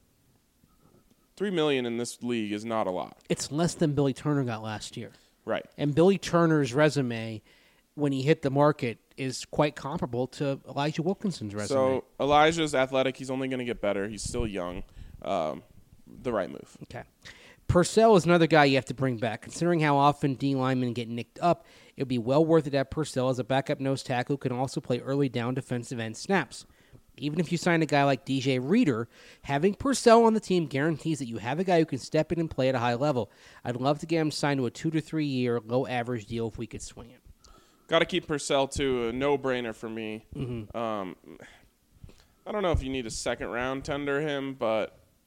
$3 million in this league is not a lot. It's less than Billy Turner got last year. Right. And Billy Turner's resume, when he hit the market, is quite comparable to Elijah Wilkinson's resume. So Elijah's athletic. He's only going to get better. He's still young. The right move. Okay. Purcell is another guy you have to bring back. Considering how often D linemen get nicked up, it would be well worth it to have Purcell as a backup nose tackle who can also play early down defensive end snaps. Even if you sign a guy like DJ Reader, having Purcell on the team guarantees that you have a guy who can step in and play at a high level. I'd love to get him signed to a 2 to 3 year low average deal if we could swing it. Got to keep Purcell too. A no-brainer for me. I don't know if you need a second round tender him, but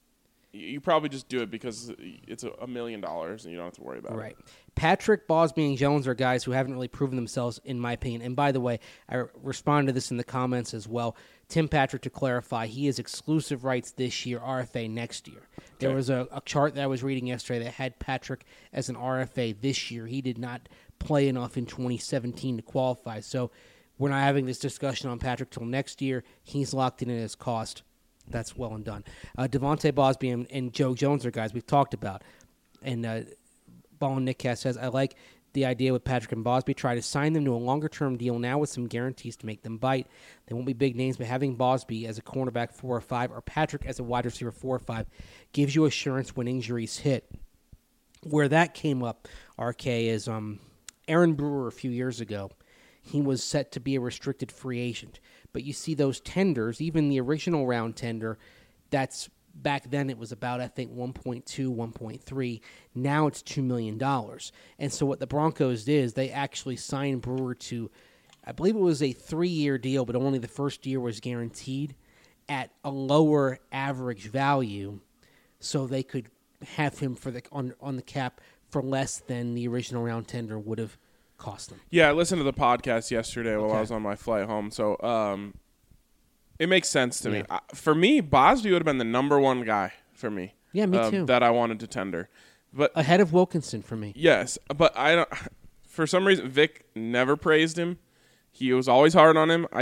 you probably just do it because it's $1 million and you don't have to worry about Right. it. Patrick, Bosby, and Jones are guys who haven't really proven themselves, in my opinion. And by the way, I responded to this in the comments as well. Tim Patrick, to clarify, he has exclusive rights this year, RFA next year. There was a chart that I was reading yesterday that had Patrick as an RFA this year. He did not play enough in 2017 to qualify. So we're not having this discussion on Patrick till next year. He's locked in at his cost. That's well and done. Devontae Bosby and Joe Jones are guys we've talked about. And Ball and Nick Cass says, I like the idea with Patrick and Bosby. Try to sign them to a longer-term deal now with some guarantees to make them bite. They won't be big names, but having Bosby as a cornerback 4 or 5 or Patrick as a wide receiver 4 or 5 gives you assurance when injuries hit. Where that came up, RK, is Aaron Brewer a few years ago. He was set to be a restricted free agent. But you see those tenders, even the original round tender, that's back then it was about, I think, 1.2, 1.3. Now it's $2 million. And so what the Broncos did is they actually signed Brewer to, I believe it was a 3-year deal, but only the first year was guaranteed at a lower average value so they could have him for the on the cap for less than the original round tender would have cost them. Yeah, I listened to the podcast yesterday while I was on my flight home, so it makes sense to me. For me, Bosby would have been the number one guy for me. Yeah, me too. That I wanted to tender, but ahead of Wilkinson for me. Yes, but I don't. For some reason, Vic never praised him. He was always hard on him.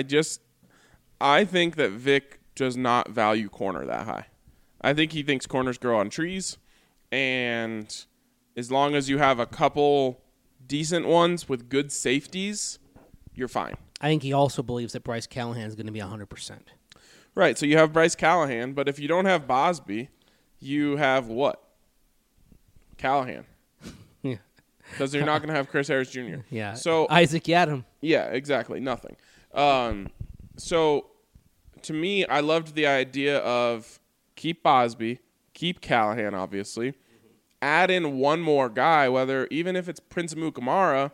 I think that Vic does not value corner that high. I think he thinks corners grow on trees, and as long as you have a couple decent ones with good safeties, you're fine. I think he also believes that Bryce Callahan is going to be 100%. Right, so you have Bryce Callahan, but if you don't have Bosby, you have what? Callahan. Yeah. Because you're not going to have Chris Harris Jr. Yeah. So Isaac Yadam. Yeah, exactly. Nothing. So to me, I loved the idea of keep Bosby, keep Callahan, obviously, add in one more guy, even if it's Prince Mukamara,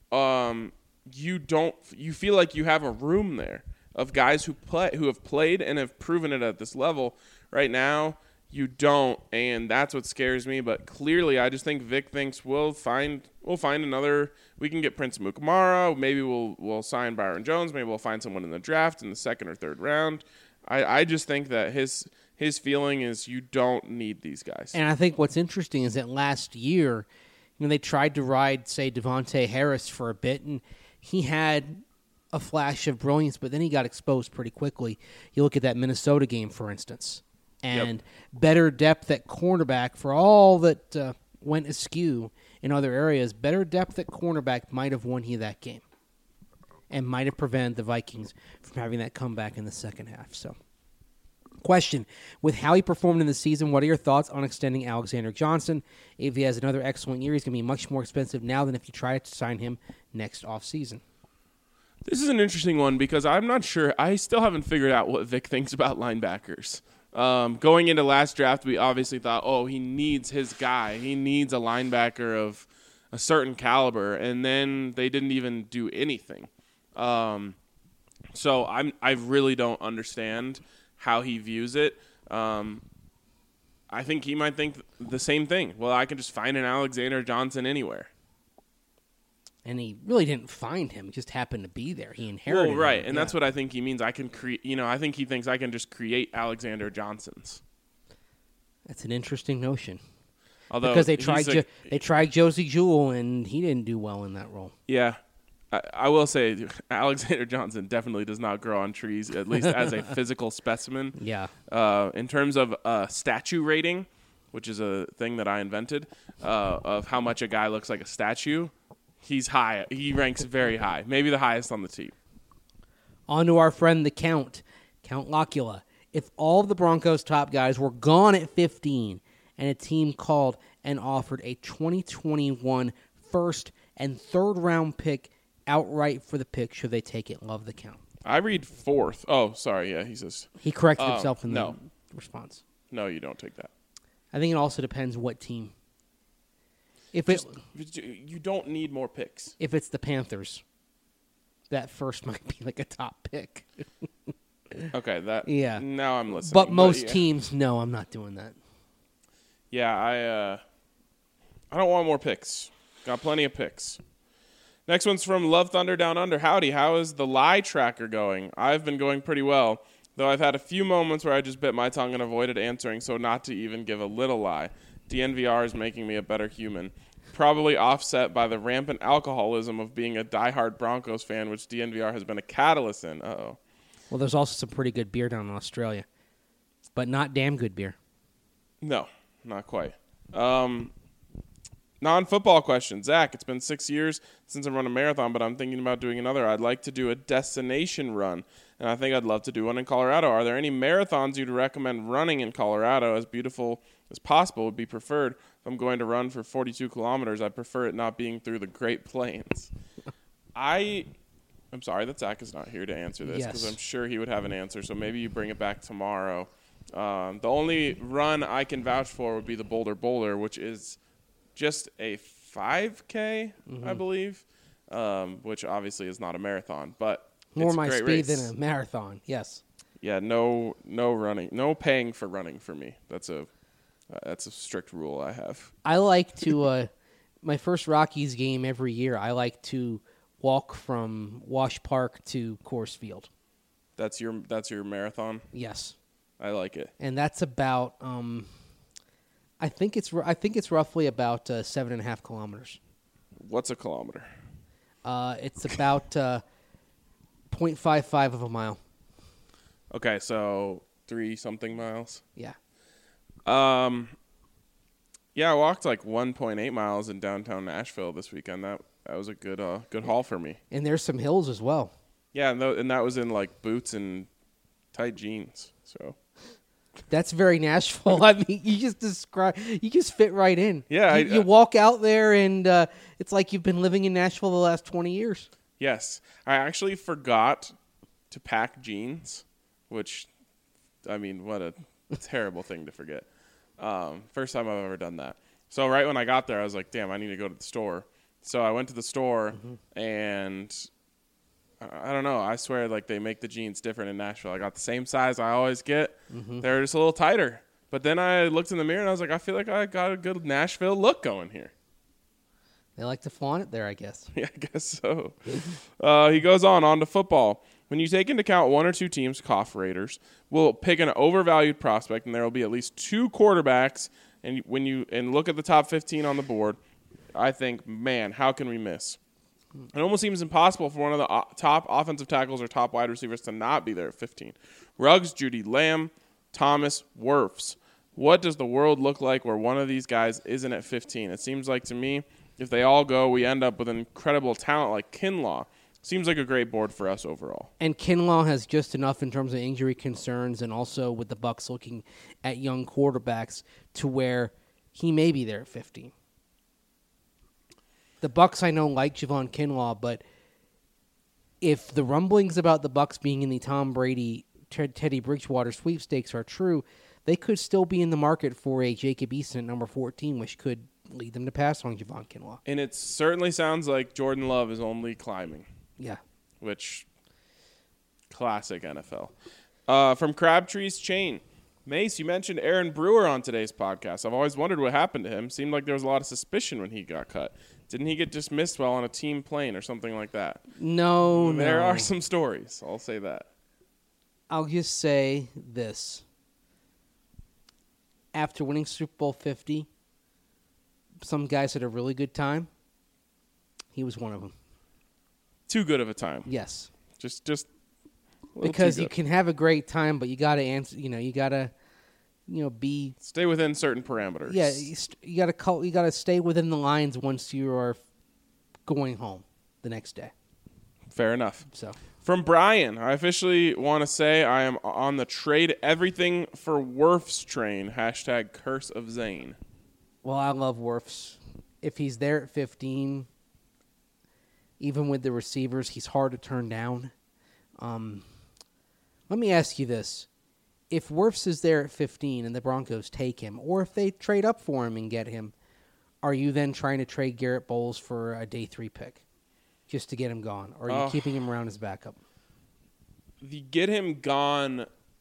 you feel like you have a room there of guys who have played and have proven it at this level. Right now, you don't, and that's what scares me. But clearly, I just think Vic thinks we'll find another. We can get Prince Mukamara. Maybe we'll sign Byron Jones. Maybe we'll find someone in the draft in the 2nd or 3rd round. I just think that his feeling is you don't need these guys. And I think what's interesting is that last year, they tried to ride, say, Devontae Harris for a bit, and he had a flash of brilliance, but then he got exposed pretty quickly. You look at that Minnesota game, for instance, and better depth at cornerback for all that went askew in other areas. Better depth at cornerback might have won you that game and might have prevented the Vikings from having that comeback in the second half. So, question, with how he performed in the season, what are your thoughts on extending Alexander Johnson? If he has another excellent year, he's going to be much more expensive now than if you try to sign him next offseason. This is an interesting one because I'm not sure. I still haven't figured out what Vic thinks about linebackers. Going into last draft, we obviously thought, he needs his guy. He needs a linebacker of a certain caliber, and then they didn't even do anything. So I really don't understand how he views it. I think he might think the same thing. Well, I can just find an Alexander Johnson anywhere. And he really didn't find him; he just happened to be there. He inherited. Well, right, him. and that's what I think he means. I can create. I think he thinks I can just create Alexander Johnsons. That's an interesting notion. Although because they tried Josie Jewell, and he didn't do well in that role. Yeah, I will say Alexander Johnson definitely does not grow on trees, at least as a physical specimen. Yeah. In terms of statue rating, which is a thing that I invented, of how much a guy looks like a statue. He's high. He ranks very high, maybe the highest on the team. On to our friend the Count Locula. If all of the Broncos' top guys were gone at 15 and a team called and offered a 2021 first and 3rd round pick outright for the pick, should they take it? Love the Count. I read 4th. Oh, sorry. Yeah, he says. He corrected himself in the response. No, you don't take that. I think it also depends what team. You don't need more picks. If it's the Panthers, that first might be like a top pick. Okay, yeah. Now I'm listening. But most teams, no, I'm not doing that. Yeah, I don't want more picks. Got plenty of picks. Next one's from Love Thunder Down Under. Howdy, how is the lie tracker going? I've been going pretty well, though I've had a few moments where I just bit my tongue and avoided answering so not to even give a little lie. DNVR is making me a better human. Probably offset by the rampant alcoholism of being a diehard Broncos fan, which DNVR has been a catalyst in. Uh-oh. Well, there's also some pretty good beer down in Australia, but not damn good beer. No, not quite. Non-football question. Zach, it's been 6 years since I've run a marathon, but I'm thinking about doing another. I'd like to do a destination run, and I think I'd love to do one in Colorado. Are there any marathons you'd recommend running in Colorado? As beautiful as possible would be preferred. If I'm going to run for 42 kilometers, I prefer it not being through the Great Plains. I'm sorry that Zach is not here to answer this because I'm sure he would have an answer, so maybe you bring it back tomorrow. The only run I can vouch for would be the Boulder Boulder, which is just a 5K, I believe, which obviously is not a marathon, but More it's my a great speed race. than a marathon, yes. Yeah, no running, no paying for running for me. That's a strict rule I have. I like to, my first Rockies game every year, I like to walk from Wash Park to Coors Field. That's your marathon? Yes. I like it. And that's about, I think it's roughly about 7.5 kilometers. What's a kilometer? It's about 0.55 of a mile. Okay, so 3-something miles. Yeah. Yeah, I walked like 1.8 miles in downtown Nashville this weekend. That was a good haul for me. And there's some hills as well. Yeah, and that was in like boots and tight jeans. So that's very Nashville. I mean, you just fit right in. Yeah, you walk out there and it's like you've been living in Nashville the last 20 years. Yes, I actually forgot to pack jeans, which, I mean, what a terrible thing to forget. First time I've ever done that. So right when I got there, I was like, damn, I need to go to the store. So I went to the store, and I don't know. I swear, like, they make the jeans different in Nashville. I got the same size I always get. They're just a little tighter. But then I looked in the mirror, and I was like, I feel like I got a good Nashville look going here. They like to flaunt it there, I guess. Yeah, I guess so. He goes on to football. When you take into account one or two teams, cough Raiders, will pick an overvalued prospect, and there will be at least two quarterbacks. And when you look at the top 15 on the board, I think, man, how can we miss? It almost seems impossible for one of the top offensive tackles or top wide receivers to not be there at 15. Ruggs, Judy Lamb, Thomas, Wirfs. What does the world look like where one of these guys isn't at 15? It seems like to me, if they all go, we end up with an incredible talent like Kinlaw. Seems like a great board for us overall. And Kinlaw has just enough in terms of injury concerns and also with the Bucs looking at young quarterbacks to where he may be there at 15. The Bucs, I know, like Javon Kinlaw, but if the rumblings about the Bucs being in the Tom Brady, Teddy Bridgewater sweepstakes are true, they could still be in the market for a Jacob Eason at number 14, which could lead them to pass on Javon Kinlaw. And it certainly sounds like Jordan Love is only climbing. Yeah. Which, classic NFL. From Crabtree's Chain. Mace, you mentioned Aaron Brewer on today's podcast. I've always wondered what happened to him. Seemed like there was a lot of suspicion when he got cut. Didn't he get dismissed while on a team plane or something like that? No. There are some stories. I'll say that. I'll just say this. After winning Super Bowl 50, some guys had a really good time. He was one of them. Too good of a time. Yes. Just a little because too you good. can have a great time, but you got to answer. You got to, be. Stay within certain parameters. Yeah, you got to stay within the lines once you are going home the next day. Fair enough. So. From Brian, I officially want to say I am on the trade everything for Wirfs train. # Curse of Zane. Well, I love Wirfs. If he's there at 15, even with the receivers, he's hard to turn down. Let me ask you this. If Wirfs is there at 15 and the Broncos take him, or if they trade up for him and get him, are you then trying to trade Garrett Bowles for a day 3 pick just to get him gone? Or are you keeping him around as backup? The get him gone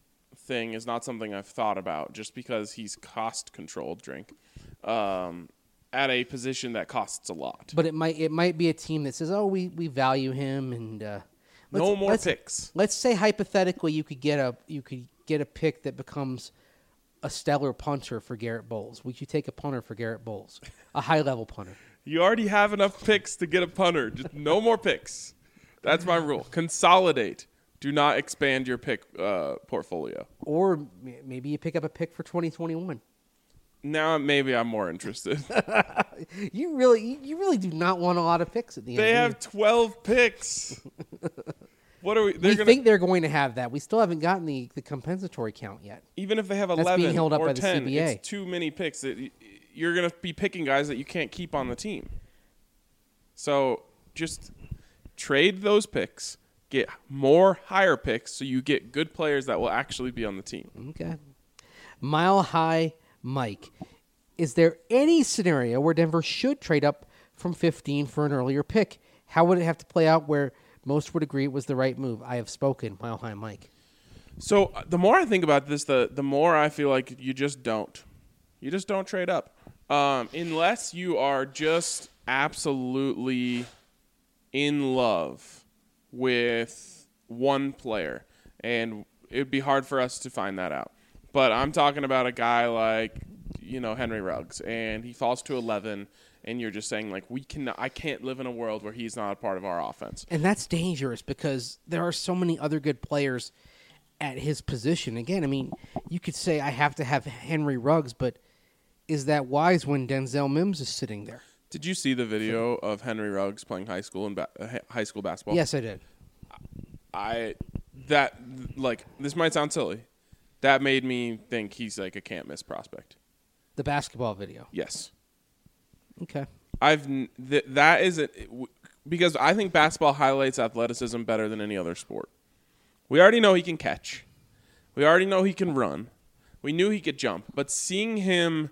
thing is not something I've thought about just because he's cost-controlled, at a position that costs a lot. But it might be a team that says, "Oh, we value him," and No more picks. Let's say hypothetically you could get a pick that becomes a stellar punter for Garrett Bowles. Would you take a punter for Garrett Bowles, a high-level punter? You already have enough picks to get a punter. Just no more picks. That's my rule. Consolidate. Do not expand your pick portfolio. Or maybe you pick up a pick for 2021. Now maybe I'm more interested. You really do not want a lot of picks at the end. They have 12 picks. What are we? We think they're going to have that. We still haven't gotten the compensatory count yet. Even if they have That's 11 being held up or by the 10, CBA. it's too many picks. You're going to be picking guys that you can't keep on the team. So just trade those picks, get more higher picks so you get good players that will actually be on the team. Okay. Mile High Mike, is there any scenario where Denver should trade up from 15 for an earlier pick? How would it have to play out where most would agree it was the right move? I have spoken, Mile High Mike. So the more I think about this, the more I feel like you just don't. You just don't trade up. Unless you are just absolutely in love with one player. And it would be hard for us to find that out. But I'm talking about a guy like, Henry Ruggs, and he falls to 11, and you're just saying, like, I can't live in a world where he's not a part of our offense. And that's dangerous because there are so many other good players at his position. Again, I mean, you could say I have to have Henry Ruggs, but is that wise when Denzel Mims is sitting there? Did you see the video of Henry Ruggs playing high school basketball? Yes, I did. This might sound silly. That made me think he's like a can't miss prospect. The basketball video. Yes. Okay. That is it because I think basketball highlights athleticism better than any other sport. We already know he can catch. We already know he can run. We knew he could jump, but seeing him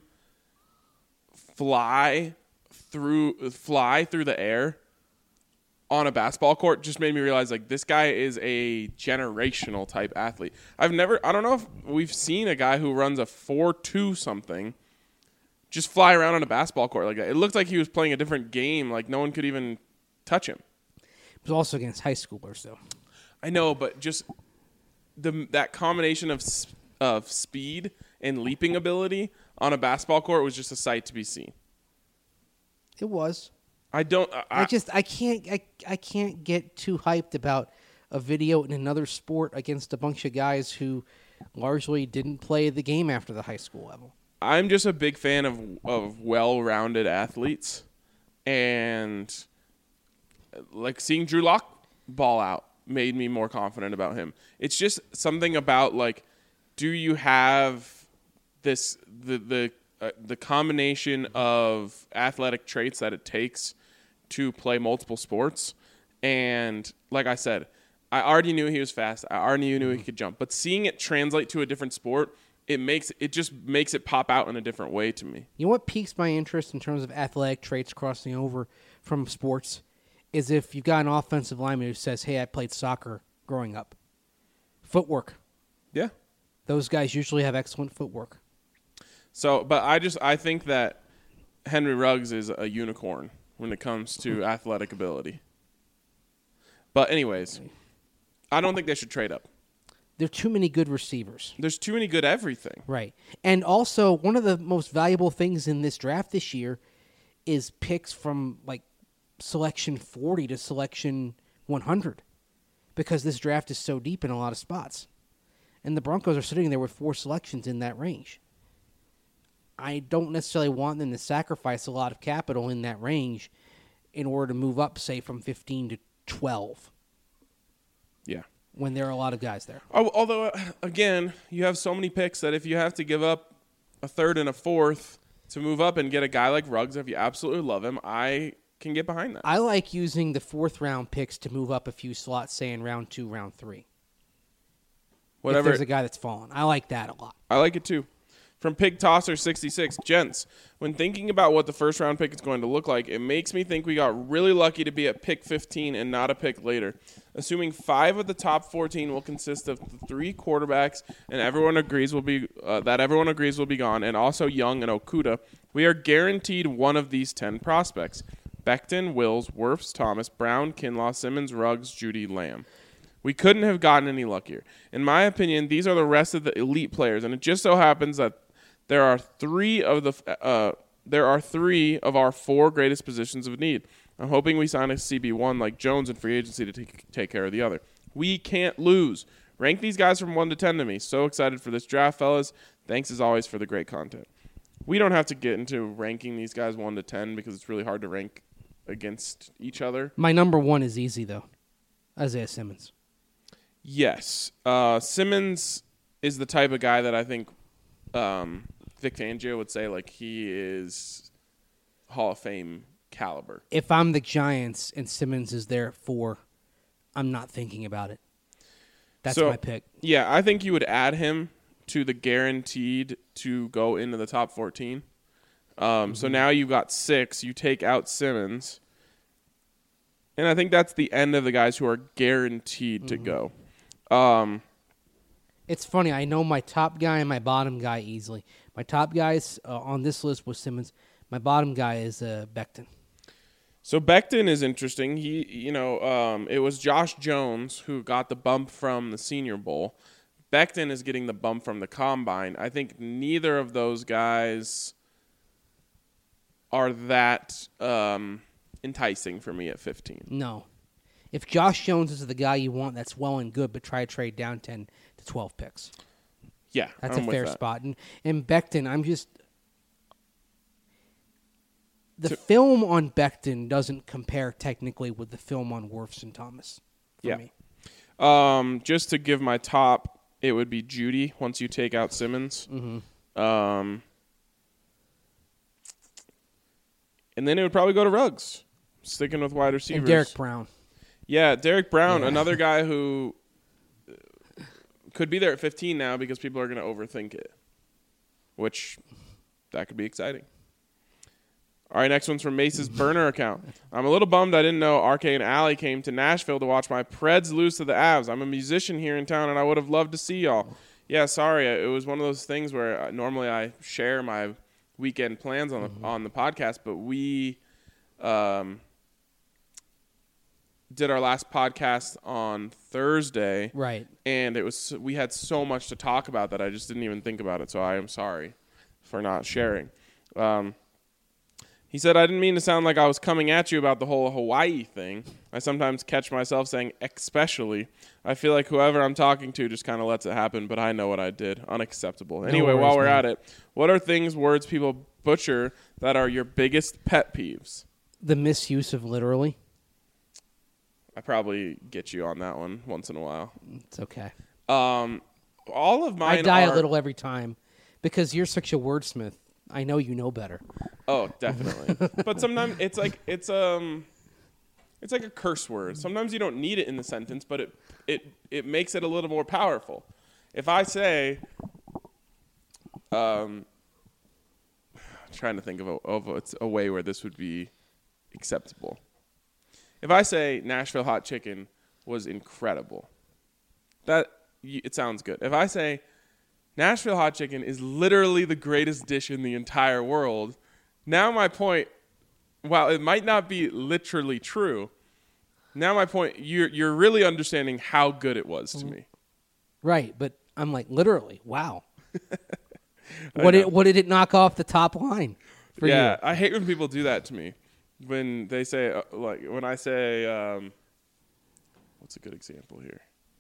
fly through the air on a basketball court just made me realize, like, this guy is a generational type athlete. I don't know if we've seen a guy who runs a 4.2 something just fly around on a basketball court like that. It looked like he was playing a different game, like no one could even touch him. It was also against high schoolers, though. I know, but just that combination of speed and leaping ability on a basketball court was just a sight to be seen. It was. I can't get too hyped about a video in another sport against a bunch of guys who largely didn't play the game after the high school level. I'm just a big fan of well-rounded athletes, and like seeing Drew Lock ball out made me more confident about him. It's just something about, like, do you have the combination of athletic traits that it takes to play multiple sports? And like I said, I already knew he was fast. I already knew he could jump. But seeing it translate to a different sport, it just makes it pop out in a different way to me. You know what piques my interest in terms of athletic traits crossing over from sports is if you've got an offensive lineman who says, "Hey, I played soccer growing up." Footwork. Yeah. Those guys usually have excellent footwork. So, but I think that Henry Ruggs is a unicorn when it comes to athletic ability. But anyways, I don't think they should trade up. There are too many good receivers. There's too many good everything. Right. And also, one of the most valuable things in this draft this year is picks from, like, selection 40 to selection 100 because this draft is so deep in a lot of spots. And the Broncos are sitting there with 4 selections in that range. I don't necessarily want them to sacrifice a lot of capital in that range in order to move up, say, from 15 to 12. Yeah. When there are a lot of guys there. Although, again, you have so many picks that if you have to give up a third and a fourth to move up and get a guy like Ruggs, if you absolutely love him, I can get behind that. I like using the 4th-round picks to move up a few slots, say, in round 2, round 3. Whatever. If there's a guy that's fallen. I like that a lot. I like it, too. From Pig Tosser 66, gents, when thinking about what the first-round pick is going to look like, it makes me think we got really lucky to be at pick 15 and not a pick later. assuming 5 of the top 14 will consist of the 3 quarterbacks, and everyone agrees will be gone, and also Young and Okuda. We are guaranteed one of these 10 prospects: Becton, Wills, Wirfs, Thomas, Brown, Kinlaw, Simmons, Ruggs, Judy, Lamb. We couldn't have gotten any luckier. In my opinion, these are the rest of the elite players, and it just so happens that there are 3 of our 4 greatest positions of need. I'm hoping we sign a CB1 like Jones in free agency to take care of the other. We can't lose. Rank these guys from 1 to 10 to me. So excited for this draft, fellas. Thanks as always for the great content. We don't have to get into ranking these guys 1 to 10 because it's really hard to rank against each other. My number 1 is easy, though. Isaiah Simmons. Yes. Simmons is the type of guy that I think Vic Fangio would say like he is Hall of Fame caliber. If I'm the Giants and Simmons is there at 4, I'm not thinking about it. That's my pick. Yeah, I think you would add him to the guaranteed to go into the top 14. So now you've got 6. You take out Simmons. And I think that's the end of the guys who are guaranteed to go. It's funny. I know my top guy and my bottom guy easily. My top guys on this list was Simmons. My bottom guy is Becton. So Becton is interesting. It was Josh Jones who got the bump from the Senior Bowl. Becton is getting the bump from the Combine. I think neither of those guys are that enticing for me at 15. No. If Josh Jones is the guy you want, that's well and good, but try to trade down 10 to 12 picks. Yeah, that's I'm a fair with that. spot. And Becton, the film on Becton doesn't compare technically with the film on Wirfs and Thomas for me. Just to give my top, it would be Judy once you take out Simmons. Mm-hmm. And then it would probably go to Ruggs, sticking with wide receivers. And Derek Brown. Yeah, Derek Brown, another guy who could be there at 15 now because people are going to overthink it, which that could be exciting. All right, next one's from Mace's burner account. I'm a little bummed I didn't know RK and Allie came to Nashville to watch my Preds lose to the Avs. I'm a musician here in town, and I would have loved to see y'all. Yeah, sorry. It was one of those things where normally I share my weekend plans on the podcast, but we did our last podcast on Thursday. Right. And we had so much to talk about that I just didn't even think about it, so I am sorry for not sharing. He said, I didn't mean to sound like I was coming at you about the whole Hawaii thing. I sometimes catch myself saying especially. I feel like whoever I'm talking to just kind of lets it happen, but I know what I did. Unacceptable. Anyway, while we're at it, what are words people butcher that are your biggest pet peeves? The misuse of literally. I probably get you on that one once in a while. It's okay. All of mine I die a little every time because you're such a wordsmith. I know you know better. Oh, definitely. But sometimes it's like a curse word. Sometimes you don't need it in the sentence, but it makes it a little more powerful. If I say, trying to think of a way where this would be acceptable. If I say Nashville hot chicken was incredible, it sounds good. If I say Nashville hot chicken is literally the greatest dish in the entire world, now my point, while it might not be literally true, now my point, you're really understanding how good it was to me. Right, but I'm like, literally, wow. What did it knock off the top line for you? Yeah, I hate when people do that to me. When they say, when I say, what's a good example here?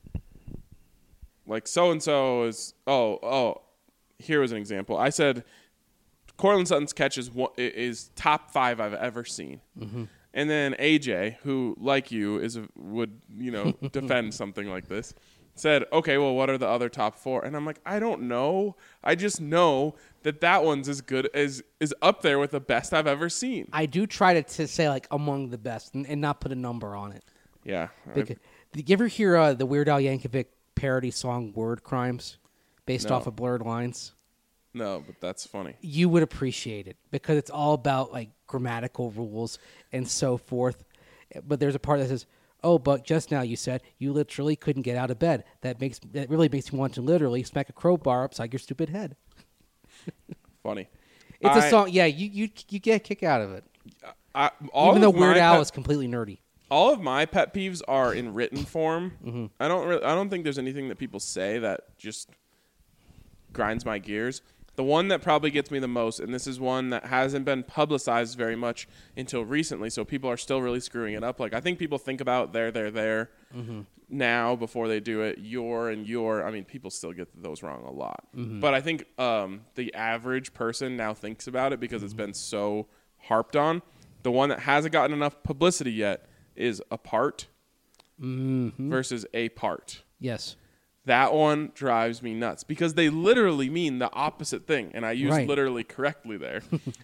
Like so-and-so is, here was an example. I said, Cortland Sutton's catch is top 5 I've ever seen. Mm-hmm. And then AJ, who, like you, would defend something like this, said, okay, well, what are the other top 4? And I'm like, I don't know. I just know that one's as good is up there with the best I've ever seen. I do try to say, like, among the best and not put a number on it. Yeah. Did you ever hear the Weird Al Yankovic parody song Word Crimes based off of Blurred Lines? No, but that's funny. You would appreciate it because it's all about like grammatical rules and so forth. But there's a part that says, Oh, but just now you said you literally couldn't get out of bed. That really makes me want to literally smack a crowbar upside your stupid head. Funny. It's a song. Yeah, you get a kick out of it. Even though Weird Al is completely nerdy. All of my pet peeves are in written form. Mm-hmm. I don't think there's anything that people say that just grinds my gears. The one that probably gets me the most, and this is one that hasn't been publicized very much until recently, so people are still really screwing it up. Like, I think people think about there Mm-hmm. now before they do it. Your. I mean, people still get those wrong a lot. Mm-hmm. But I think the average person now thinks about it because it's been so harped on. The one that hasn't gotten enough publicity yet is apart versus a part. Yes. That one drives me nuts because they literally mean the opposite thing, and I use Right. literally correctly there.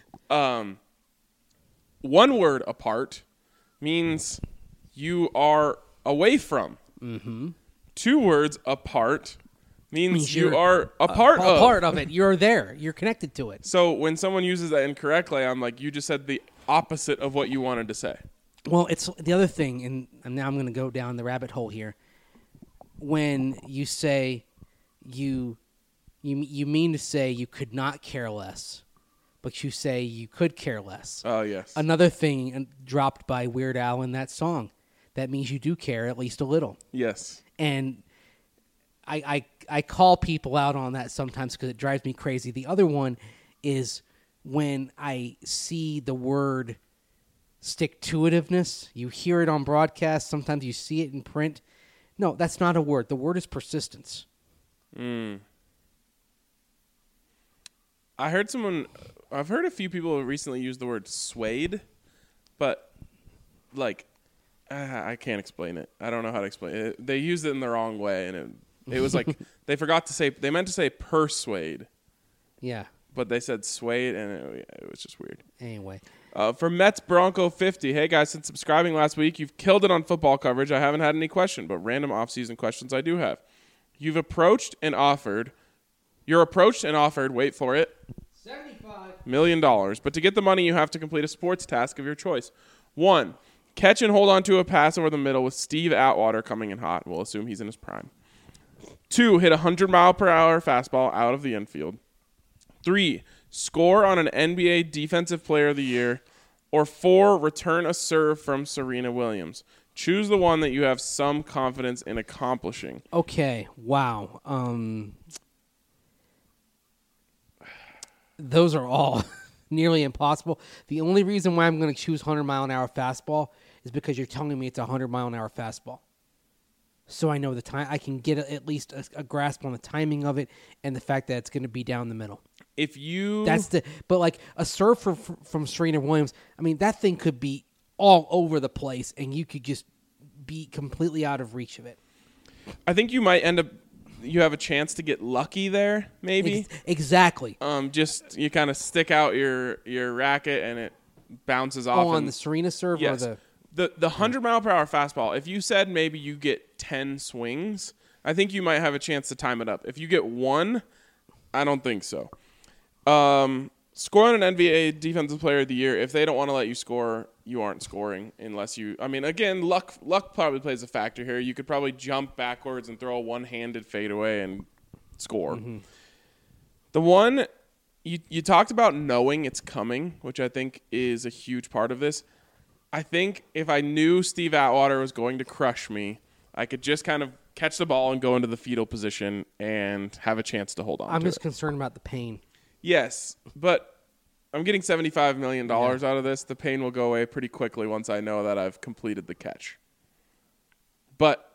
One word apart means you are away from. Mm-hmm. 2 words apart means you are a part of. A part of it. You're there. You're connected to it. So when someone uses that incorrectly, I'm like, you just said the opposite of what you wanted to say. Well, it's the other thing, and now I'm going to go down the rabbit hole here. When you say you mean to say you could not care less, but you say you could care less. Oh, yes. Another thing dropped by Weird Al in that song. That means you do care at least a little. Yes. And I call people out on that sometimes because it drives me crazy. The other one is when I see the word stick-to-itiveness. You hear it on broadcast. Sometimes you see it in print. No, that's not a word. The word is persistence. I've heard a few people recently use the word swayed, but like, I can't explain it. I don't know how to explain it. They used it in the wrong way, and it was like they meant to say persuade. Yeah. But they said swayed, and it was just weird. Anyway. For Mets Bronco 50, hey guys, since subscribing last week, you've killed it on football coverage. I haven't had any question, but random off-season questions I do have. You're approached and offered, wait for it, $75 million. But to get the money, you have to complete a sports task of your choice. 1, catch and hold on to a pass over the middle with Steve Atwater coming in hot. We'll assume he's in his prime. 2, hit a 100-mile-per-hour fastball out of the infield. 3, score on an NBA Defensive Player of the Year. Or 4, return a serve from Serena Williams. Choose the one that you have some confidence in accomplishing. Okay. Wow. Those are all nearly impossible. The only reason why I'm going to choose 100-mile-an-hour fastball is because you're telling me it's a 100-mile-an-hour fastball. So I know the time. I can get at least a grasp on the timing of it and the fact that it's going to be down the middle. But like a serve from Serena Williams, I mean, that thing could be all over the place and you could just be completely out of reach of it. I think you might you have a chance to get lucky there, maybe. Exactly. Just you kind of stick out your racket and it bounces off. On the Serena serve, yes. or the 100-mile-per-hour fastball. If you said maybe you get 10 swings, I think you might have a chance to time it up. If you get 1, I don't think so. Score on an NBA Defensive Player of the Year. If they don't want to let you score, you aren't scoring unless you. I mean, again, luck probably plays a factor here. You could probably jump backwards and throw a one-handed fadeaway and score. Mm-hmm. The one you talked about knowing it's coming, which I think is a huge part of this. I think if I knew Steve Atwater was going to crush me, I could just kind of catch the ball and go into the fetal position and have a chance to hold on. I'm just concerned about the pain. Yes, but I'm getting $75 million out of this. The pain will go away pretty quickly once I know that I've completed the catch. But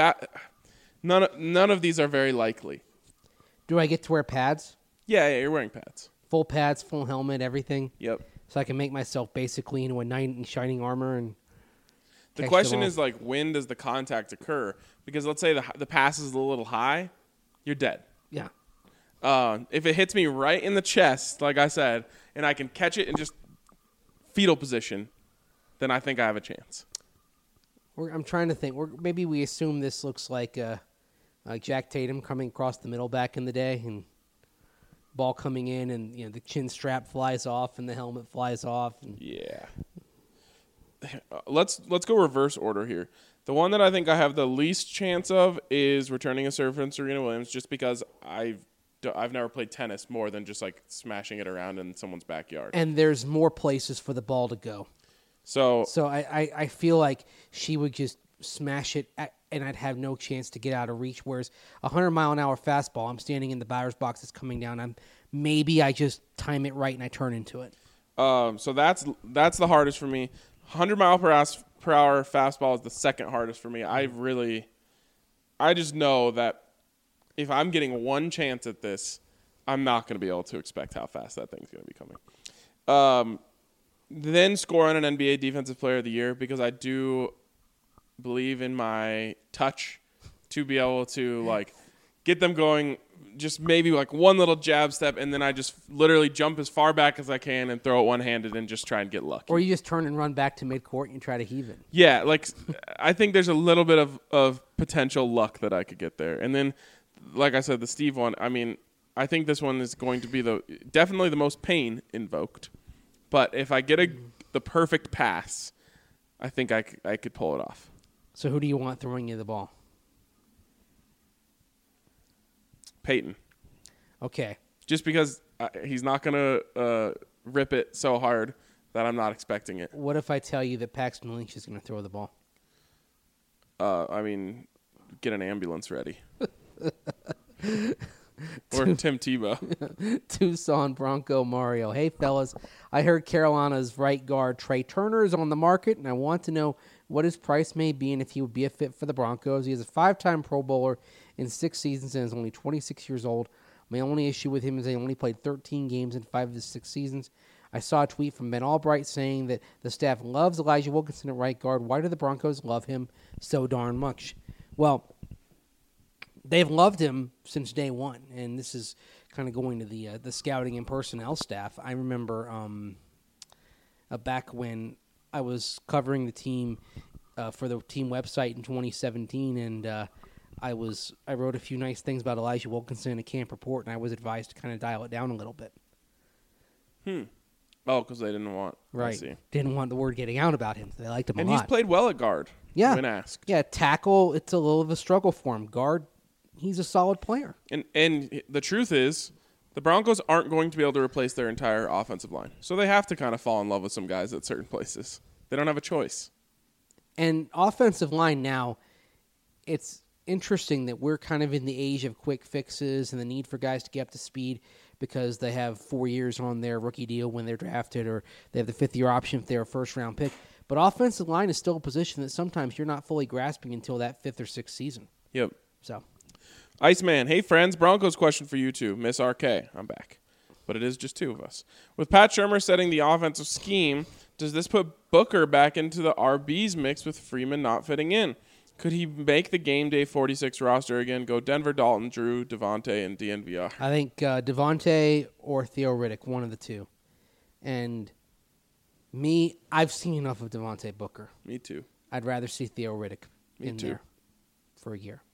none of these are very likely. Do I get to wear pads? Yeah, you're wearing pads. Full pads, full helmet, everything? Yep. So I can make myself basically into a knight in shining armor and the question is, like, when does the contact occur? Because let's say the pass is a little high, you're dead. Yeah. If it hits me right in the chest, like I said, and I can catch it in just fetal position, then I think I have a chance. I'm trying to think. Maybe we assume this looks like Jack Tatum coming across the middle back in the day, and ball coming in, and the chin strap flies off, and the helmet flies off. And yeah. let's go reverse order here. The one that I think I have the least chance of is returning a serve from Serena Williams, just because I've never played tennis more than just like smashing it around in someone's backyard. And there's more places for the ball to go. So I feel like she would just smash it, and I'd have no chance to get out of reach. Whereas 100-mile-an-hour fastball, I'm standing in the batter's box, it's coming down. Maybe I just time it right and I turn into it. So that's the hardest for me. 100-mile-per-hour fastball is the second hardest for me. I just know that if I'm getting one chance at this, I'm not going to be able to expect how fast that thing's going to be coming. Then score on an NBA Defensive Player of the Year, because I do believe in my touch to be able to like get them going, just maybe like one little jab step, and then I just literally jump as far back as I can and throw it one-handed and just try and get lucky. Or you just turn and run back to midcourt and try to heave it. Yeah, like I think there's a little bit of potential luck that I could get there. And then, like I said, the Steve one, I mean, I think this one is going to be definitely the most pain invoked. But if I get the perfect pass, I think I could pull it off. So who do you want throwing you the ball? Peyton. Okay. Just because he's not going to rip it so hard that I'm not expecting it. What if I tell you that Paxton Lynch is going to throw the ball? I mean, get an ambulance ready. Or Tim Tebow. Tucson Bronco Mario. Hey, fellas, I heard Carolina's right guard Trey Turner is on the market, and I want to know what his price may be and if he would be a fit for the Broncos. He is a 5-time Pro Bowler in 6 seasons and is only 26 years old. My only issue with him is he only played 13 games in 5 of the 6 seasons. I saw a tweet from Ben Albright saying that the staff loves Elijah Wilkinson at right guard. Why do the Broncos love him so darn much? Well, they've loved him since day one, and this is kind of going to the scouting and personnel staff. I remember back when I was covering the team for the team website in 2017, and I wrote a few nice things about Elijah Wilkinson in a camp report, and I was advised to kind of dial it down a little bit. Oh, because they didn't want. Right. I see. Didn't want the word getting out about him. They liked him And a lot. he's played well at guard. Yeah. When asked. Yeah, tackle, it's a little of a struggle for him. Guard, he's a solid player. And the truth is, the Broncos aren't going to be able to replace their entire offensive line. So they have to kind of fall in love with some guys at certain places. They don't have a choice. And offensive line now, it's interesting that we're kind of in the age of quick fixes and the need for guys to get up to speed because they have 4 years on their rookie deal when they're drafted, or they have the 5th-year option if they're a first-round pick. But offensive line is still a position that sometimes you're not fully grasping until that 5th or 6th season. Yep. So, Iceman, hey friends, Broncos question for you two. Miss RK, I'm back. But it is just 2 of us. With Pat Shurmur setting the offensive scheme, does this put Booker back into the RBs mix with Freeman not fitting in? Could he make the game day 46 roster again? Go Denver, Dalton, Drew, Devontae, and DNVR. I think Devontae or Theo Riddick, one of the two. And me, I've seen enough of Devontae Booker. Me too. I'd rather see Theo Riddick in too. there for a year.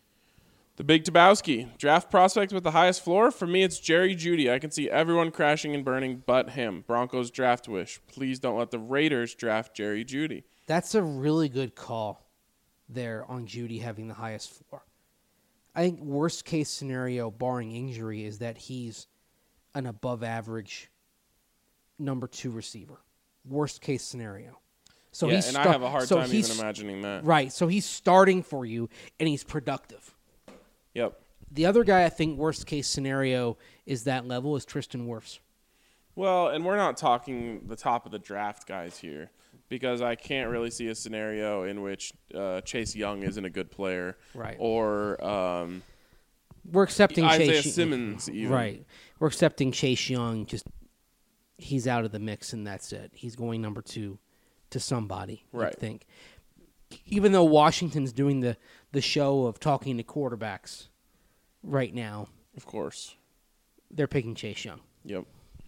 The Big Tabowski. Draft prospect with the highest floor? For me, it's Jerry Jeudy. I can see everyone crashing and burning but him. Broncos draft wish. Please don't let the Raiders draft Jerry Jeudy. That's a really good call there on Jeudy having the highest floor. I think worst case scenario, barring injury, is that he's an above average number 2 receiver. Worst case scenario. So yeah, he's and I have a hard time even imagining that. Right, so he's starting for you, and he's productive. Yep. The other guy I think worst case scenario is that level is Tristan Wirfs. Well, and we're not talking the top of the draft guys here, because I can't really see a scenario in which Chase Young isn't a good player. Right. Or we're accepting Isaiah Chase Simmons even. Right. We're accepting Chase Young, just he's out of the mix and that's it. He's going number 2 to somebody, right. I think. Even though Washington's doing the show of talking to quarterbacks right now. Of course. They're picking Chase Young. Yep.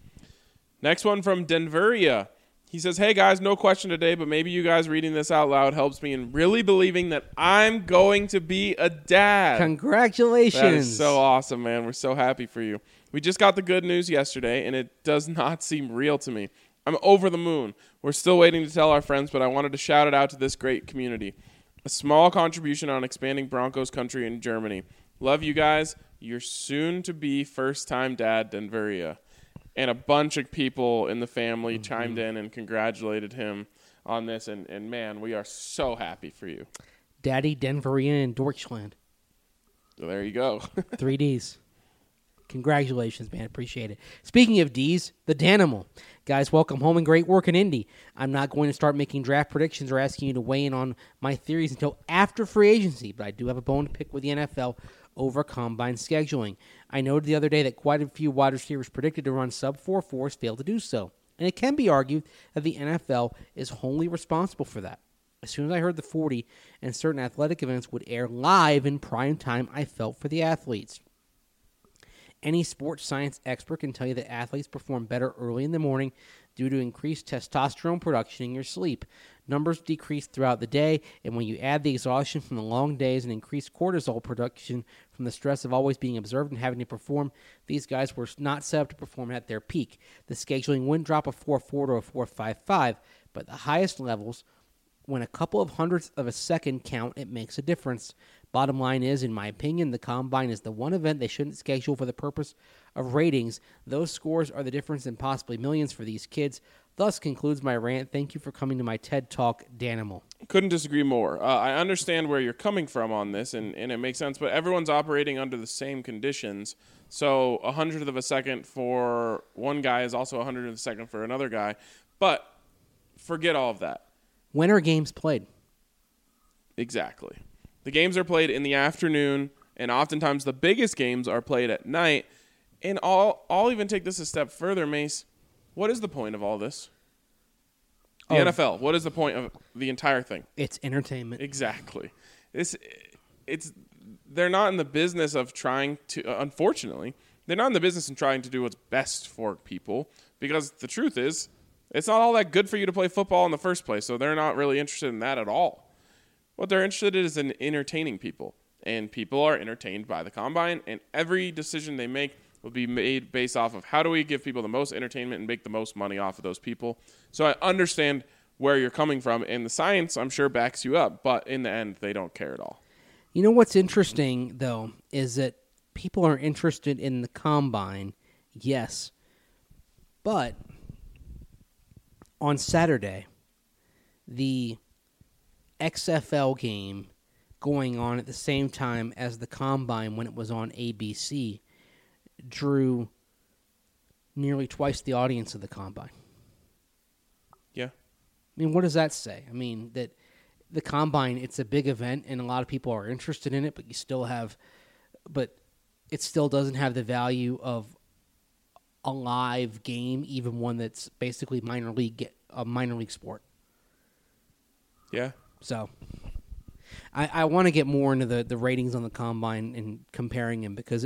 Next one from Denveria. He says, hey, guys, no question today, but maybe you guys reading this out loud helps me in really believing that I'm going to be a dad. Congratulations. That is so awesome, man. We're so happy for you. We just got the good news yesterday, and it does not seem real to me. I'm over the moon. We're still waiting to tell our friends, but I wanted to shout it out to this great community. A small contribution on expanding Broncos country in Germany. Love you guys. Your soon-to-be first-time dad, Denveria. And a bunch of people in the family chimed in and congratulated him on this. And man, we are so happy for you. Daddy, Denveria, and Deutschland. So there you go. 3 Ds. Congratulations, man. Appreciate it. Speaking of Ds, the Danimal. Guys, welcome home and great work in Indy. I'm not going to start making draft predictions or asking you to weigh in on my theories until after free agency, but I do have a bone to pick with the NFL over combine scheduling. I noted the other day that quite a few wide receivers predicted to run sub-4.4s failed to do so, and it can be argued that the NFL is wholly responsible for that. As soon as I heard the 40 and certain athletic events would air live in prime time, I felt for the athletes. Any sports science expert can tell you that athletes perform better early in the morning due to increased testosterone production in your sleep. Numbers decrease throughout the day, and when you add the exhaustion from the long days and increased cortisol production from the stress of always being observed and having to perform, these guys were not set up to perform at their peak. The scheduling wouldn't drop a 4.4 to a 4.55, but the highest levels, when a couple of hundredths of a second count, it makes a difference. Bottom line is, in my opinion, the Combine is the one event they shouldn't schedule for the purpose of ratings. Those scores are the difference in possibly millions for these kids. Thus concludes my rant. Thank you for coming to my TED Talk, Danimal. Couldn't disagree more. I understand where you're coming from on this, and it makes sense, but everyone's operating under the same conditions. So 100th of a second for one guy is also 100th of a second for another guy. But forget all of that. When are games played? Exactly. The games are played in the afternoon, and oftentimes the biggest games are played at night. And I'll even take this a step further, Mace. What is the point of all this? The NFL. What is the point of the entire thing? It's entertainment. Exactly. They're not in the business of trying to, unfortunately, they're not in the business of trying to do what's best for people, because the truth is, it's not all that good for you to play football in the first place, so they're not really interested in that at all. What they're interested in is in entertaining people, and people are entertained by the Combine, and every decision they make will be made based off of how do we give people the most entertainment and make the most money off of those people. So I understand where you're coming from, and the science, I'm sure, backs you up, but in the end, they don't care at all. You know what's interesting, though, is that people are interested in the Combine, yes, but on Saturday, the XFL game going on at the same time as the Combine when it was on ABC drew nearly twice the audience of the Combine. Yeah. I mean, what does that say? I mean, that the Combine, it's a big event and a lot of people are interested in it, but it still doesn't have the value of a live game, even one that's basically a minor league sport. Yeah. So I want to get more into the ratings on the Combine and comparing them, because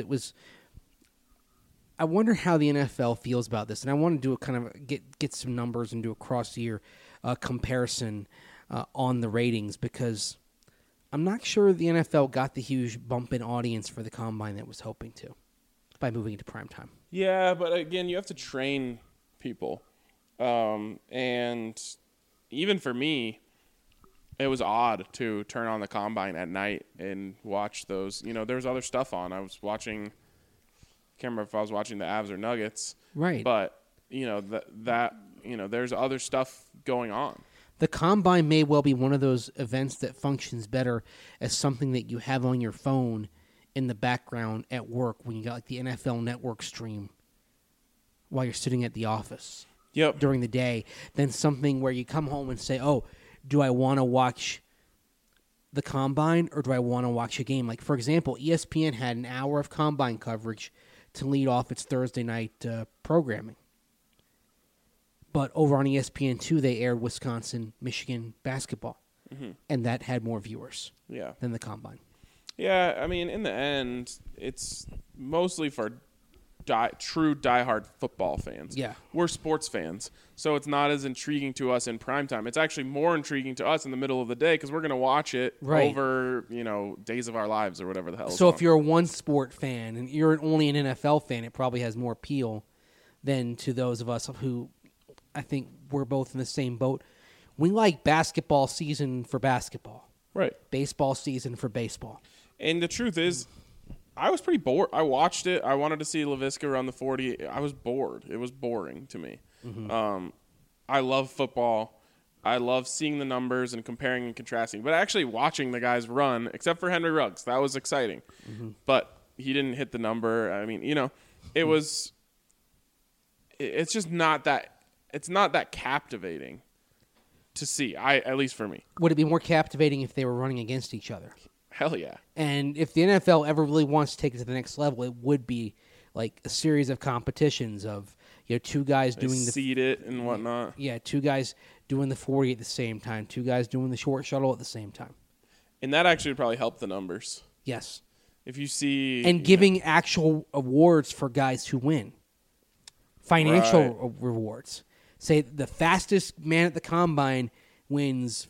I wonder how the NFL feels about this, and I want to do a kind of get some numbers and do a cross-year comparison on the ratings, because I'm not sure the NFL got the huge bump in audience for the Combine that it was hoping to by moving into primetime. Yeah, but again, you have to train people. And even for me, it was odd to turn on the Combine at night and watch those. You know, there was other stuff on. I was watching, can't remember if I was watching the Avs or Nuggets. Right. But, you know, there's other stuff going on. The Combine may well be one of those events that functions better as something that you have on your phone in the background at work when you got like the NFL Network stream while you're sitting at the office. Yep. During the day, than something where you come home and say, oh, do I want to watch the Combine or do I want to watch a game? Like, for example, ESPN had an hour of Combine coverage to lead off its Thursday night programming. But over on ESPN2, they aired Wisconsin-Michigan basketball, and that had more viewers than the Combine. Yeah, I mean, in the end, it's mostly for true diehard football fans. Yeah. We're sports fans, so it's not as intriguing to us in primetime. It's actually more intriguing to us in the middle of the day because we're going to watch it over, days of our lives or whatever the hell. So if you're a one-sport fan and you're only an NFL fan, it probably has more appeal than to those of us who I think we're both in the same boat. We like basketball season for basketball, Right. baseball season for baseball. And the truth is, I was pretty bored. I watched it. I wanted to see LaVisca run the 40. I was bored. It was boring to me. I love football. I love seeing the numbers and comparing and contrasting. But actually watching the guys run, except for Henry Ruggs, that was exciting. But he didn't hit the number. I mean, it was – it's just not that – it's not that captivating to see, at least for me. Would it be more captivating if they were running against each other? Hell yeah. And if the NFL ever really wants to take it to the next level, it would be like a series of competitions of two guys They doing the seed it and whatnot. Yeah, two guys doing the 40 at the same time, two guys doing the short shuttle at the same time. And that actually would probably help the numbers. Yes. If you see... And giving actual awards for guys who win. Financial rewards. Say the fastest man at the combine wins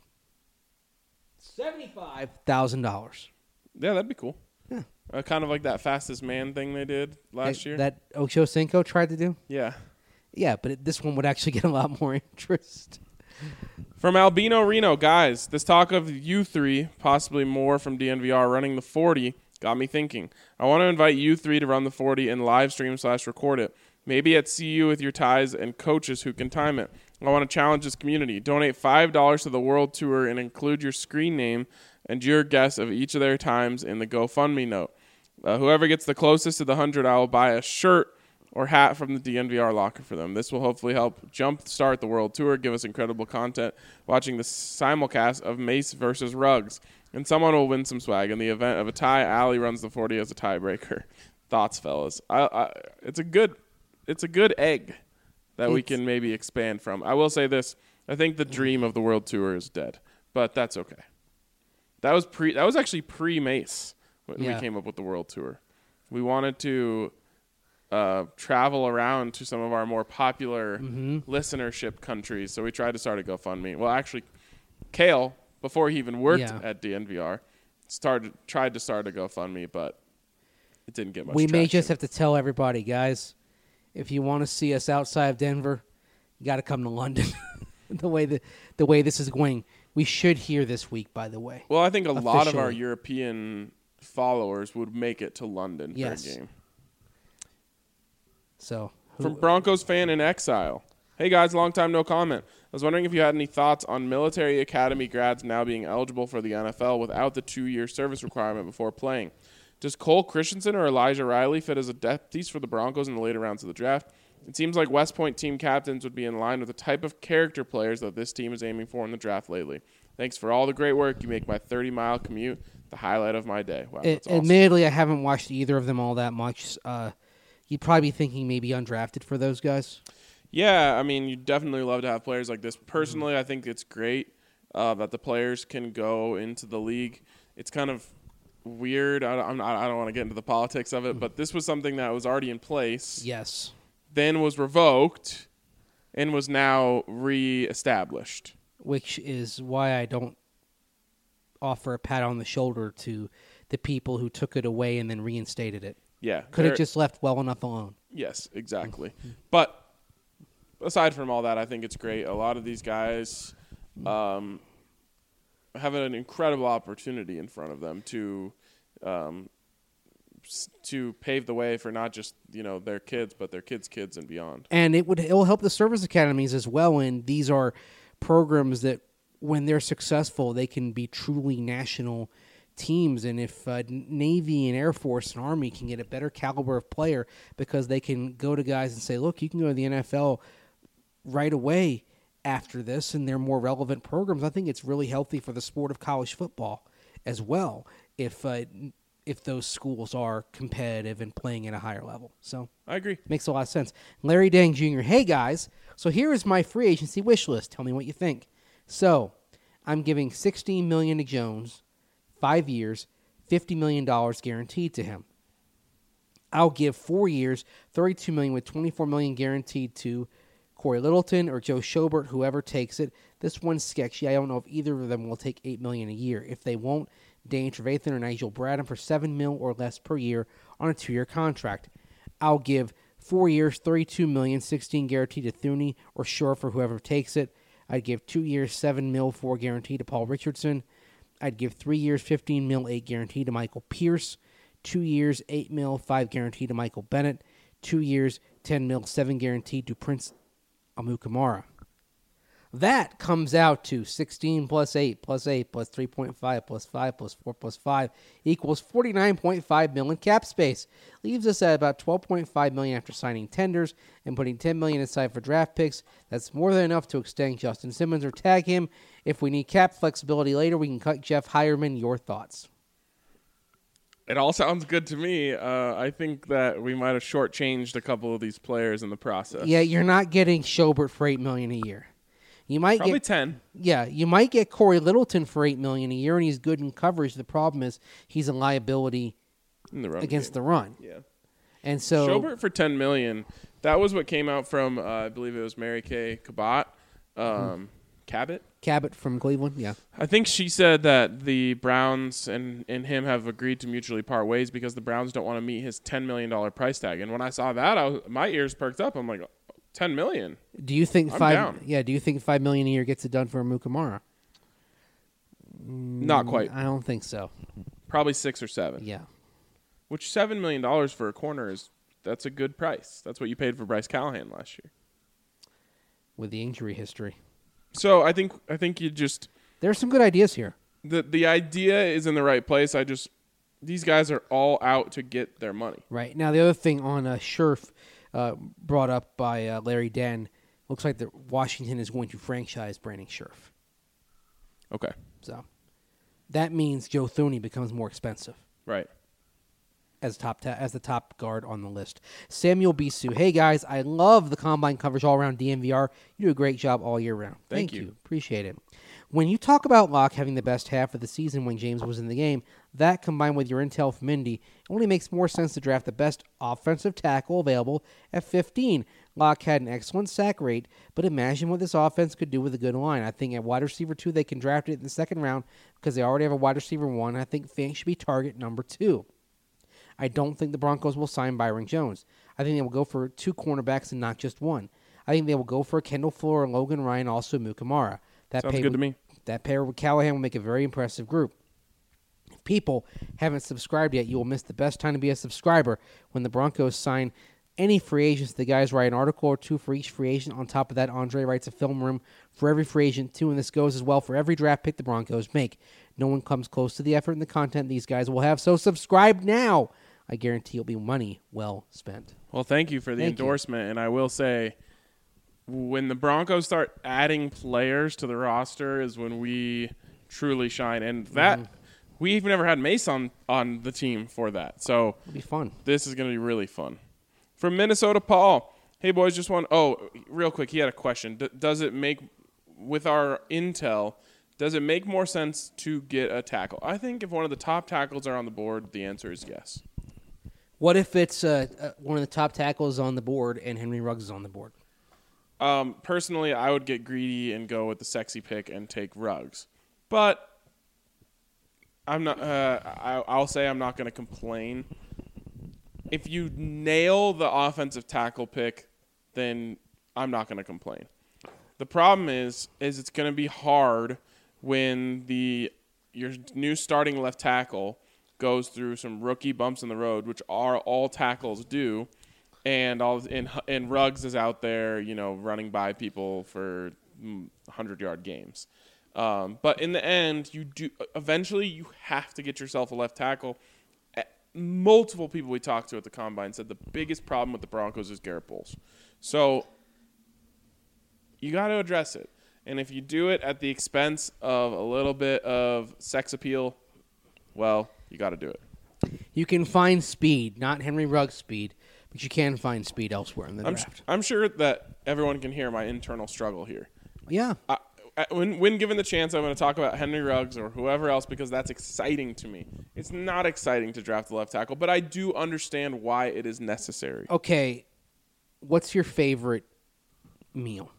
$75,000. Yeah, that'd be cool. Yeah. Kind of like that fastest man thing they did last year. That Ocho Cinco tried to do? Yeah. Yeah, but this one would actually get a lot more interest. From Albino Reno, guys, this talk of you three, possibly more from DNVR, running the 40 got me thinking. I want to invite you three to run the 40 and live stream / record it. Maybe at CU with your ties and coaches who can time it. I want to challenge this community. Donate $5 to the World Tour and include your screen name and your guess of each of their times in the GoFundMe note. Whoever gets the closest to the 100, I will buy a shirt or hat from the DNVR locker for them. This will hopefully help jumpstart the World Tour, give us incredible content watching the simulcast of Mace versus Ruggs. And someone will win some swag. In the event of a tie, Allie runs the 40 as a tiebreaker. Thoughts, fellas? It's a good egg that we can maybe expand from. I will say this. I think the dream of the World Tour is dead, but that's okay. That was actually pre-Mace when we came up with the World Tour. We wanted to travel around to some of our more popular listenership countries, so we tried to start a GoFundMe. Well, actually, Kale, before he even worked at DNVR, tried to start a GoFundMe, but it didn't get much traction. We may just have to tell everybody, guys, if you want to see us outside of Denver, you got to come to London. the way this is going, we should hear this week, by the way. Well, I think a lot of our European followers would make it to London for a game. So, from Broncos fan in exile. Hey guys, long time no comment. I was wondering if you had any thoughts on military academy grads now being eligible for the NFL without the 2-year service requirement before playing. Does Cole Christensen or Elijah Riley fit as a depth piece for the Broncos in the later rounds of the draft? It seems like West Point team captains would be in line with the type of character players that this team is aiming for in the draft lately. Thanks for all the great work. You make my 30-mile commute the highlight of my day. Wow, that's awesome. Admittedly, I haven't watched either of them all that much. You'd probably be thinking maybe undrafted for those guys. Yeah, I mean, you'd definitely love to have players like this. Personally, I think it's great that the players can go into the league. It's kind of weird. I don't want to get into the politics of it, but this was something that was already in place. Yes. Then was revoked and was now reestablished. Which is why I don't offer a pat on the shoulder to the people who took it away and then reinstated it. Yeah. Could have just left well enough alone. Yes, exactly. But aside from all that, I think it's great. A lot of these guys have an incredible opportunity in front of them to pave the way for not just their kids, but their kids' kids and beyond. And it will help the service academies as well. And these are programs that, when they're successful, they can be truly national teams. And if Navy and Air Force and Army can get a better caliber of player because they can go to guys and say, look, you can go to the NFL right away after this, and they're more relevant programs, I think it's really healthy for the sport of college football as well if those schools are competitive and playing at a higher level. So I agree. Makes a lot of sense. Larry Dang Jr., hey guys, so here is my free agency wish list. Tell me what you think. So I'm giving $16 million to Jones, 5 years, $50 million guaranteed to him. I'll give 4 years, $32 million with $24 million guaranteed to Corey Littleton or Joe Schobert, whoever takes it. This one's sketchy. I don't know if either of them will take $8 million a year. If they won't, Dane Trevathan or Nigel Bradham for $7 million or less per year on a 2-year contract. I'll give 4 years, $32 million, 16 guaranteed to Thuney or Shore for whoever takes it. I'd give 2 years, $7 million, 4 guaranteed to Paul Richardson. I'd give 3 years, $15 million, 8 guaranteed to Michael Pierce. 2 years, $8 million, 5 guaranteed to Michael Bennett. 2 years, $10 million, 7 guaranteed to Prince Amukamara. That comes out to 16 plus 8 plus 8 plus 3.5 plus 5 plus 4 plus 5 equals $49.5 million cap space. Leaves us at about $12.5 million after signing tenders and putting $10 million aside for draft picks. That's more than enough to extend Justin Simmons or tag him. If we need cap flexibility later, we can cut Jeff Hireman. Your thoughts? It all sounds good to me. I think that we might have shortchanged a couple of these players in the process. Yeah, you're not getting Schobert for $8 million a year. You might Probably get 10. Yeah, you might get Corey Littleton for $8 million a year, and he's good in coverage. The problem is he's a liability In the run against game. the run. Yeah. And so Schobert for $10 million. That was what came out from, I believe it was Mary Kay Cabot. Cabot from Cleveland, yeah. I think she said that the Browns and him have agreed to mutually part ways because the Browns don't want to meet his $10 million price tag. And when I saw that, my ears perked up. I'm like, $10 million? Do you think I'm down. Do you think $5 million a year gets it done for Amukamara? Not quite. I don't think so. Probably 6 or 7. Yeah. Which $7 million for a corner that's a good price. That's what you paid for Bryce Callahan last year. With the injury history. So I think you just There's some good ideas here. the idea is in the right place. These guys are all out to get their money. Right. Now, the other thing on Scherf brought up by Larry Den, looks like that Washington is going to franchise Brandon Scherf. Okay. So that means Joe Thuney becomes more expensive Right. as the top guard on the list. Samuel Bisu. Hey, guys, I love the Combine coverage all around DNVR. You do a great job all year round. Thank you. Appreciate it. When you talk about Locke having the best half of the season when James was in the game, that combined with your intel from Indy only makes more sense to draft the best offensive tackle available at 15. Locke had an excellent sack rate, but imagine what this offense could do with a good line. I think at wide receiver 2, they can draft it in the second round because they already have a wide receiver 1. I think Fant should be target number 2. I don't think the Broncos will sign Byron Jones. I think they will go for 2 cornerbacks and not just 1. I think they will go for Kendall Fuller and Logan Ryan, also Mukamara. Sounds good to me. That pair with Callahan will make a very impressive group. If people haven't subscribed yet, you will miss the best time to be a subscriber when the Broncos sign any free agents. The guys write an article or 2 for each free agent. On top of that, Andre writes a film room for every free agent, too, and this goes as well for every draft pick the Broncos make. No one comes close to the effort and the content these guys will have, so subscribe now. I guarantee it'll be money well spent. Well, thank you for the endorsement. And I will say, when the Broncos start adding players to the roster is when we truly shine. And that we've never had Mace on the team for that. So It'll be fun. This is going to be really fun. From Minnesota, Paul. Hey, boys, just one. Oh, real quick, he had a question. Does it make, with our intel, does it make more sense to get a tackle? I think if one of the top tackles are on the board, the answer is yes. What if it's one of the top tackles on the board and Henry Ruggs is on the board? Personally, I would get greedy and go with the sexy pick and take Ruggs. But I'm not. I'll say I'm not going to complain. If you nail the offensive tackle pick, then I'm not going to complain. The problem is it's going to be hard when your new starting left tackle goes through some rookie bumps in the road, which are all tackles do, and Ruggs is out there, running by people for 100-yard games. But in the end, eventually you have to get yourself a left tackle. Multiple people we talked to at the Combine said the biggest problem with the Broncos is Garrett Bowles. So you got to address it. And if you do it at the expense of a little bit of sex appeal, well, you got to do it. You can find speed, not Henry Ruggs speed, but you can find speed elsewhere in the draft. I'm sure that everyone can hear my internal struggle here. Yeah. When given the chance, I'm going to talk about Henry Ruggs or whoever else because that's exciting to me. It's not exciting to draft the left tackle, but I do understand why it is necessary. Okay, what's your favorite meal?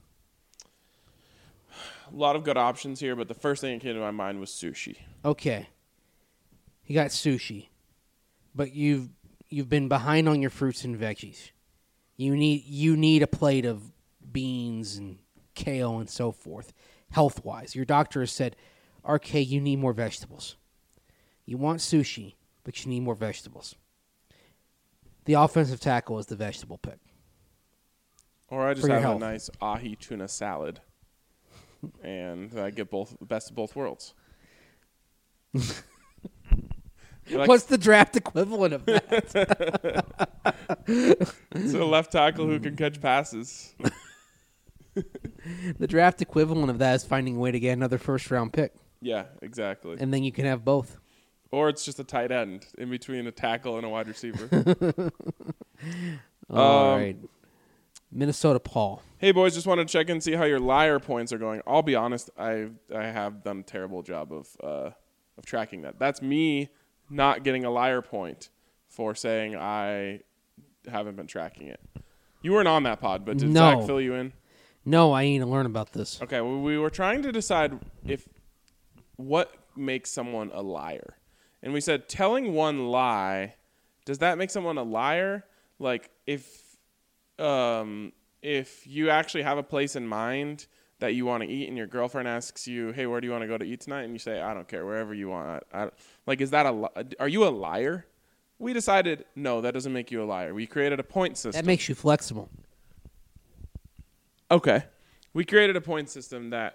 A lot of good options here, but the first thing that came to my mind was sushi. Okay. You got sushi, but you've been behind on your fruits and veggies. You need a plate of beans and kale and so forth, health-wise. Your doctor has said, RK, you need more vegetables. You want sushi, but you need more vegetables. The offensive tackle is the vegetable pick. Or I just For your have a health. nice ahi tuna salad, and I get the best of both worlds. Like, What's the draft equivalent of that? it's a left tackle who can catch passes. The draft equivalent of that is finding a way to get another first-round pick, Yeah, exactly. and then you can have both. Or it's just a tight end in between a tackle and a wide receiver. All right. Minnesota Paul. Hey, boys, just wanted to check in and see how your liar points are going. I'll be honest, I have done a terrible job of tracking that. That's me not getting a liar point for saying I haven't been tracking it. You weren't on that pod, but did No. Zach fill you in? No, I need to learn about this. Okay, well, we were trying to decide what makes someone a liar. And we said telling one lie, does that make someone a liar? Like if you actually have a place in mind that you want to eat and your girlfriend asks you, "Hey, where do you want to go to eat tonight?" and you say, "I don't care, wherever you want." Is that are you a liar? We decided no, that doesn't make you a liar. We created a point system. That makes you flexible. Okay. We created a point system that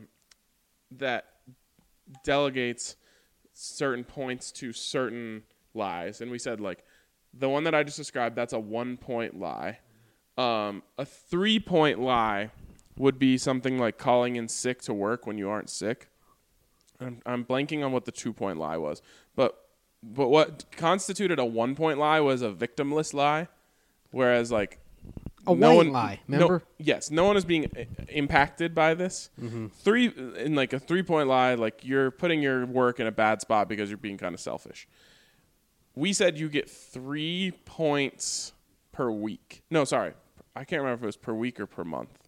that delegates certain points to certain lies. And we said, like, the one that I just described, that's a 1-point lie. A 3-point lie would be something like calling in sick to work when you aren't sick. I'm blanking on what the 2-point lie was. But what constituted a 1-point lie was a victimless lie, whereas, like, A white lie, remember? No one is being impacted by this. In like a 3-point lie, like you're putting your work in a bad spot because you're being kind of selfish. We said you get 3 points per week. No, sorry. I can't remember if it was per week or per month.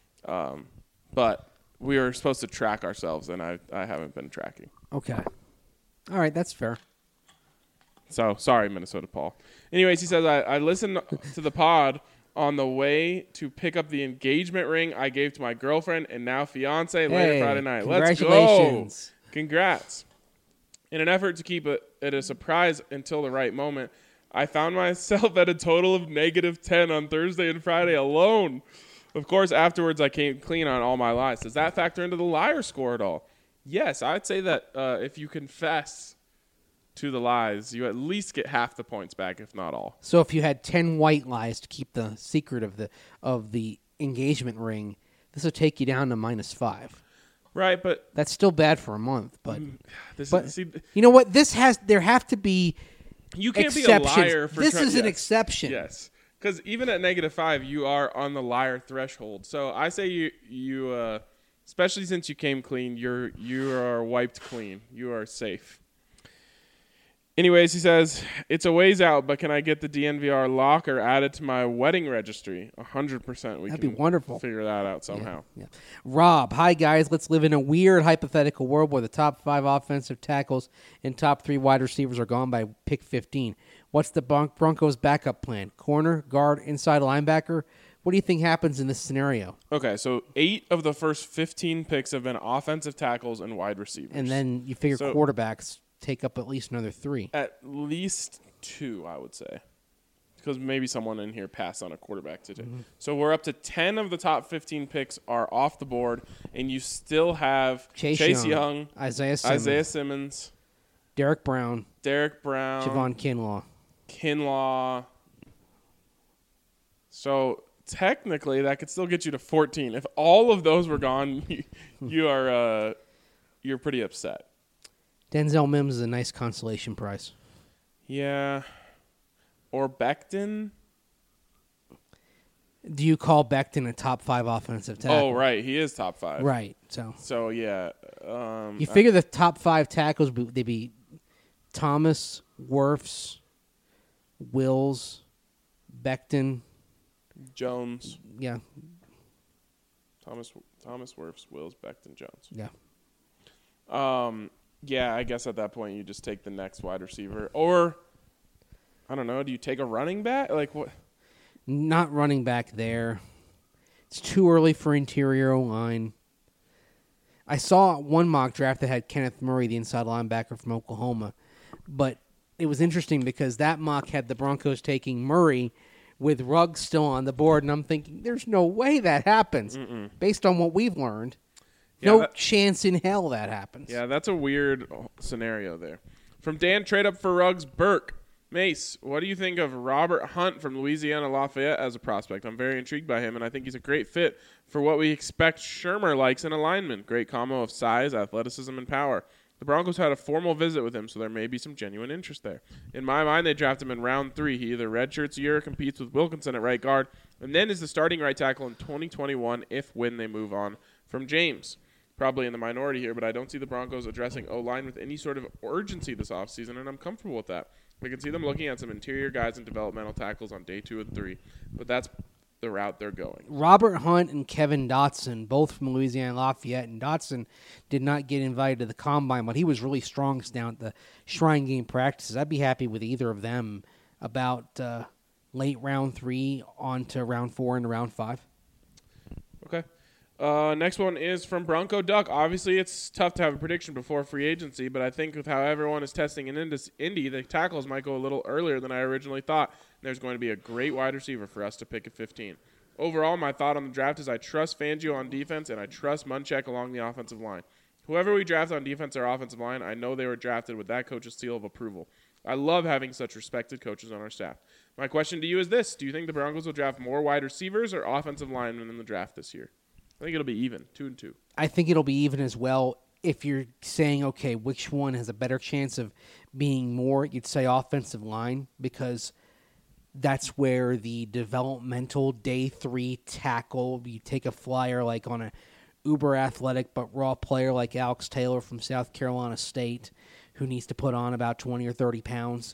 But we were supposed to track ourselves, and I haven't been tracking. Okay. All right, that's fair. So, sorry, Minnesota Paul. Anyways, he says, I listened to the pod on the way to pick up the engagement ring I gave to my girlfriend and now fiance later Friday night. Let's go. Congratulations. Congrats. In an effort to keep it a surprise until the right moment, I found myself at a total of -10 on Thursday and Friday alone. Of course, afterwards, I came clean on all my lies. Does that factor into the liar score at all? Yes, I'd say that if you confess to the lies, you at least get half the points back, if not all. So if you had 10 white lies to keep the secret of the engagement ring, this would take you down to -5. Right, but That's still bad for a month, but see, you know what? There have to be you can't exceptions. be a liar for This is an exception. Yes, because even at -5, you are on the liar threshold. So I say you especially since you came clean, you are wiped clean. You are safe. Anyways, he says, it's a ways out, but can I get the DNVR locker added to my wedding registry? 100%. That'd be wonderful. Figure that out somehow. Yeah. Rob, hi guys. Let's live in a weird hypothetical world where the top 5 offensive tackles and top 3 wide receivers are gone by pick 15. What's the Broncos' backup plan? Corner, guard, inside linebacker? What do you think happens in this scenario? Okay, so 8 of the first 15 picks have been offensive tackles and wide receivers. And then you figure quarterbacks take up at least another 3. At least 2, I would say. Because maybe someone in here passed on a quarterback today. Mm-hmm. So we're up to 10 of the top 15 picks are off the board, and you still have Chase Young, Isaiah Simmons, Derek Brown, Javon Kinlaw. So technically, that could still get you to 14. If all of those were gone, you're pretty upset. Denzel Mims is a nice consolation prize. Yeah. Or Becton. Do you call Becton a top 5 offensive tackle? Oh, right. He is top 5. Right. So yeah. You figure the top 5 tackles, they'd be Thomas, Wirfs, Wills, Becton. Jones. Yeah. Thomas Wirfs, Wills, Becton, Jones. Yeah. Yeah, I guess at that point you just take the next wide receiver. Or, I don't know, do you take a running back? Like what? Not running back there. It's too early for interior O-line. I saw one mock draft that had Kenneth Murray, the inside linebacker from Oklahoma. But it was interesting because that mock had the Broncos taking Murray with Ruggs still on the board. And I'm thinking, there's no way that happens based on what we've learned. No chance in hell that happens. Yeah, that's a weird scenario there. From Dan, trade up for Ruggs, Burke. Mace, what do you think of Robert Hunt from Louisiana Lafayette as a prospect? I'm very intrigued by him, and I think he's a great fit for what we expect Shermer likes in a lineman. Great combo of size, athleticism, and power. The Broncos had a formal visit with him, so there may be some genuine interest there. In my mind, they draft him in round 3. He either redshirts a year or competes with Wilkinson at right guard, and then is the starting right tackle in 2021 when they move on from James. Probably in the minority here, but I don't see the Broncos addressing O-line with any sort of urgency this offseason, and I'm comfortable with that. I can see them looking at some interior guys and developmental tackles on day 2 and 3, but that's the route they're going. Robert Hunt and Kevin Dotson, both from Louisiana Lafayette, and Dotson did not get invited to the Combine, but he was really strong down at the Shrine Game practices. I'd be happy with either of them about late round 3 on to round 4 and round 5. Okay. Next one is from Bronco Duck. Obviously, it's tough to have a prediction before free agency, but I think with how everyone is testing in Indy, the tackles might go a little earlier than I originally thought. There's going to be a great wide receiver for us to pick at 15. Overall, my thought on the draft is I trust Fangio on defense, and I trust Munchak along the offensive line. Whoever we draft on defense or offensive line, I know they were drafted with that coach's seal of approval. I love having such respected coaches on our staff. My question to you is this. Do you think the Broncos will draft more wide receivers or offensive linemen in the draft this year? I think it'll be even, 2 and 2. I think it'll be even as well. If you're saying, okay, which one has a better chance of being more, you'd say offensive line, because that's where the developmental day 3 tackle, you take a flyer like on a uber athletic but raw player like Alex Taylor from South Carolina State, who needs to put on about 20 or 30 pounds.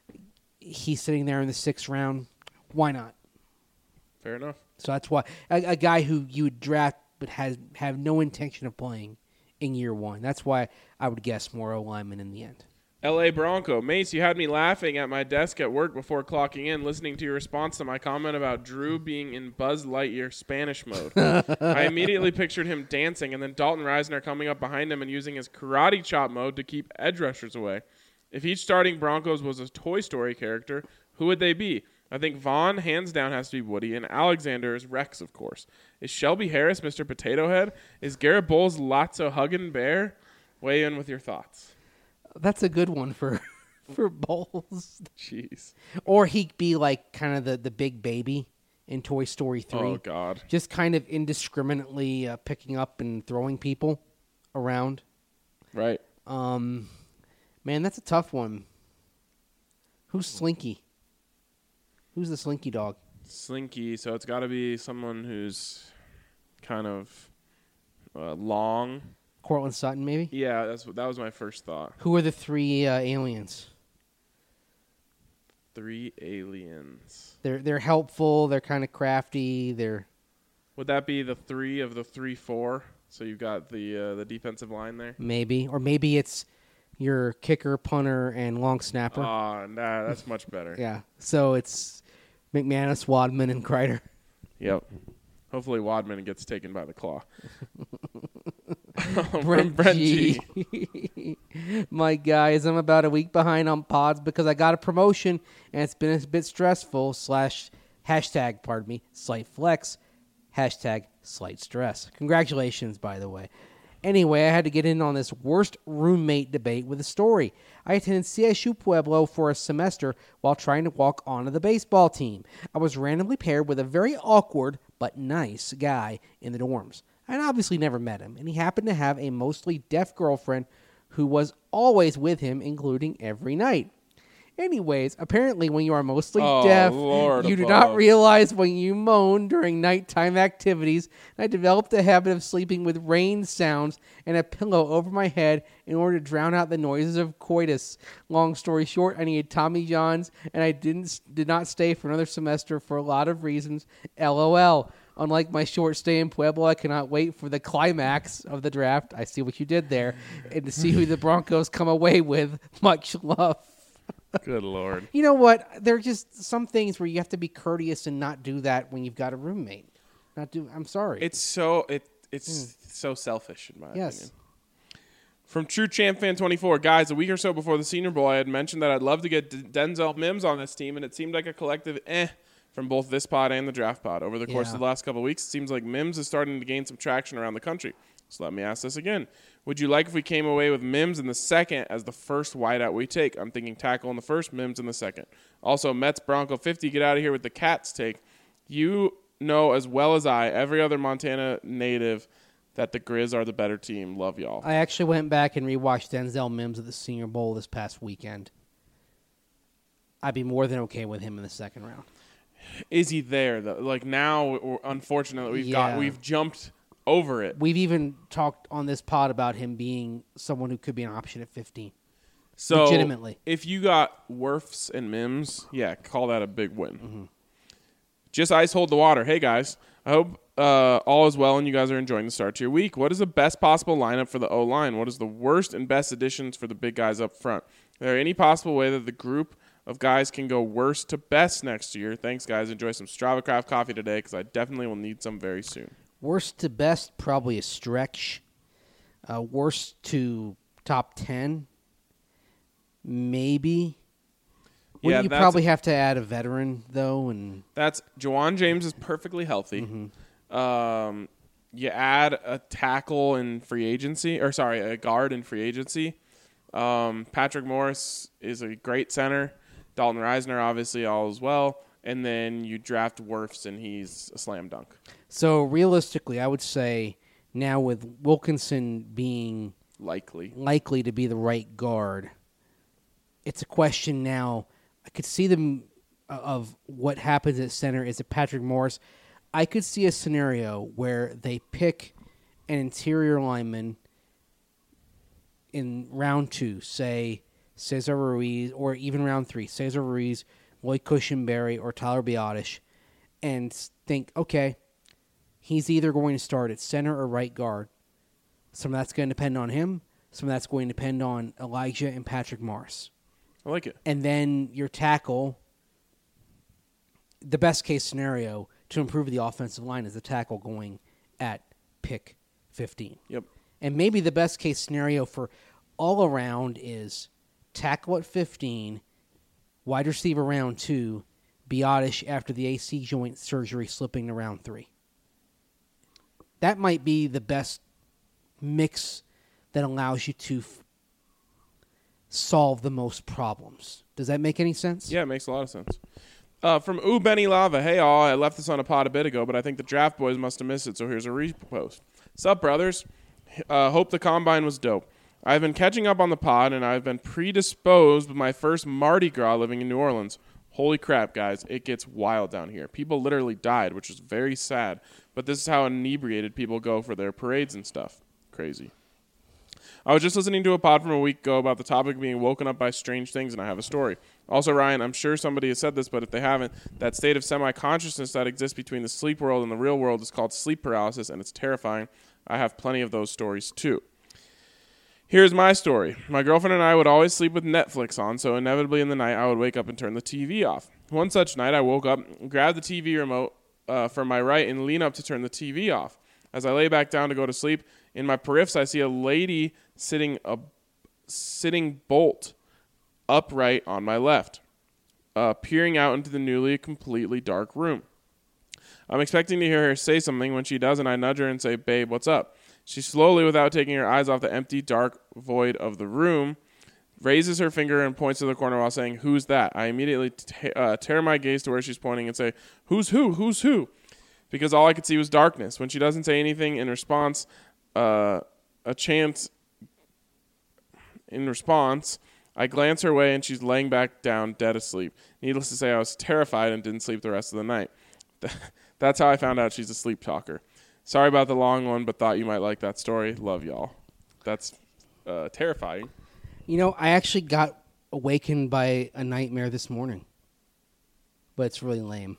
He's sitting there in the 6th round. Why not? Fair enough. So that's why a guy who you would draft but have no intention of playing in year 1. That's why I would guess more O-linemen in the end. L.A. Bronco. Mace, you had me laughing at my desk at work before clocking in, listening to your response to my comment about Drew being in Buzz Lightyear Spanish mode. I immediately pictured him dancing, and then Dalton Reisner coming up behind him and using his karate chop mode to keep edge rushers away. If each starting Broncos was a Toy Story character, who would they be? I think Vaughn, hands down, has to be Woody, and Alexander is Rex, of course. Is Shelby Harris Mr. Potato Head? Is Garrett Bowles Lotso Huggin' Bear? Weigh in with your thoughts. That's a good one for Bowles. Jeez. Or he'd be like kind of the big baby in Toy Story 3. Oh, God. Just kind of indiscriminately picking up and throwing people around. Right. Man, that's a tough one. Who's Slinky? Who's the Slinky dog? Slinky, so it's got to be someone who's kind of long. Cortland Sutton, maybe? Yeah, that was my first thought. Who are the 3 aliens? 3 aliens. They're helpful. They're kind of crafty. Would that be the 3 of the 3-4? So you've got the defensive line there? Maybe. Or maybe it's your kicker, punter, and long snapper. Oh, nah, that's much better. Yeah. So it's McManus, Wadman, and Kreider. Yep. Hopefully Wadman gets taken by the claw. Brent G. My guys, I'm about a week behind on pods because I got a promotion and it's been a bit stressful / hashtag, slight flex, hashtag slight stress. Congratulations, by the way. Anyway, I had to get in on this worst roommate debate with a story. I attended CSU Pueblo for a semester while trying to walk onto the baseball team. I was randomly paired with a very awkward but nice guy in the dorms. I'd obviously never met him, and he happened to have a mostly deaf girlfriend who was always with him, including every night. Anyways, apparently when you are mostly deaf, Lord you do above. not realize when you moan during nighttime activities. I developed a habit of sleeping with rain sounds and a pillow over my head in order to drown out the noises of coitus. Long story short, I needed Tommy Johns, and I did not stay for another semester for a lot of reasons. LOL. Unlike my short stay in Pueblo, I cannot wait for the climax of the draft. I see what you did there. And to see who the Broncos come away with. Much love. Good Lord. You know what? There are just some things where you have to be courteous and not do that when you've got a roommate. I'm sorry. It's so so selfish in my Yes. opinion. From True Champ Fan 24, guys, a week or so before the Senior Bowl, I had mentioned that I'd love to get Denzel Mims on this team, and it seemed like a collective from both this pod and the draft pod. Over the course of the last couple of weeks, it seems like Mims is starting to gain some traction around the country. So let me ask this again. Would you like if we came away with Mims in the second as the first wideout we take? I'm thinking tackle in the first, Mims in the second. Also, Mets Bronco 50, get out of here with the Cats take. You know as well as I, every other Montana native, that the Grizz are the better team. Love y'all. I actually went back and rewatched Denzel Mims at the Senior Bowl this past weekend. I'd be more than okay with him in the second round. Is he there though? Like now, unfortunately, we've jumped over it. We've even talked on this pod about him being someone who could be an option at 15. So legitimately, if you got Wirfs and Mims, yeah, call that a big win. Mm-hmm. Just ice hold the water. Hey guys, I hope all is well and you guys are enjoying the start to your week. What is the best possible lineup for the O-line? What is the worst and best additions for the big guys up front? Is there any possible way that the group of guys can go worst to best next year? Thanks, guys. Enjoy some Strava Craft coffee today because I definitely will need some very soon. worst to best, probably a stretch. Worst to top 10, maybe. Yeah, You probably have to add a veteran, though. And that's Jawan James is perfectly healthy. Mm-hmm. You add a tackle in free agency, a guard in free agency. Patrick Morris is a great center. Dalton Reisner, obviously, all as well. And then you draft Wirfs, and he's a slam dunk. So, realistically, I would say now with Wilkinson being likely to be the right guard, it's a question now. I could see them of what happens at center. Is it Patrick Morris? I could see a scenario where they pick an interior lineman in round 2, say Cesar Ruiz, or even round 3, Cesar Ruiz, Lloyd Cushenberry, or Tyler Biotish, and think, okay, he's either going to start at center or right guard. Some of that's going to depend on him. Some of that's going to depend on Elijah and Patrick Morris. I like it. And then your tackle, the best case scenario to improve the offensive line is the tackle going at pick 15. Yep. And maybe the best case scenario for all around is tackle at 15, wide receiver round 2, Biotish after the AC joint surgery slipping to round 3. That might be the best mix that allows you to solve the most problems. Does that make any sense? Yeah, it makes a lot of sense. From Benny Lava, hey all, I left this on a pod a bit ago, but I think the draft boys must have missed it, so here's a repost. Sup, brothers? Hope the combine was dope. I've been catching up on the pod, and I've been predisposed with my first Mardi Gras living in New Orleans. Holy crap, guys, it gets wild down here. People literally died, which is very sad, but this is how inebriated people go for their parades and stuff. Crazy. I was just listening to a pod from a week ago about the topic of being woken up by strange things, and I have a story. Also, Ryan, I'm sure somebody has said this, but if they haven't, that state of semi-consciousness that exists between the sleep world and the real world is called sleep paralysis, and it's terrifying. I have plenty of those stories, too. Here's my story. My girlfriend and I would always sleep with Netflix on, so inevitably in the night I would wake up and turn the TV off. One such night I woke up, grabbed the TV remote from my right, and leaned up to turn the TV off. As I lay back down to go to sleep, in my periffs I see a lady sitting bolt upright on my left, peering out into the newly completely dark room. I'm expecting to hear her say something. When she doesn't, I nudge her and say, "Babe, what's up?" She slowly, without taking her eyes off the empty, dark void of the room, raises her finger and points to the corner while saying, "Who's that?" I immediately tear my gaze to where she's pointing and say, "Who's who? Who's who?" Because all I could see was darkness. When she doesn't say anything in response, I glance her way and she's laying back down, dead asleep. Needless to say, I was terrified and didn't sleep the rest of the night. That's how I found out she's a sleep talker. Sorry about the long one, but thought you might like that story. Love y'all. That's terrifying. You know, I actually got awakened by a nightmare this morning, but it's really lame.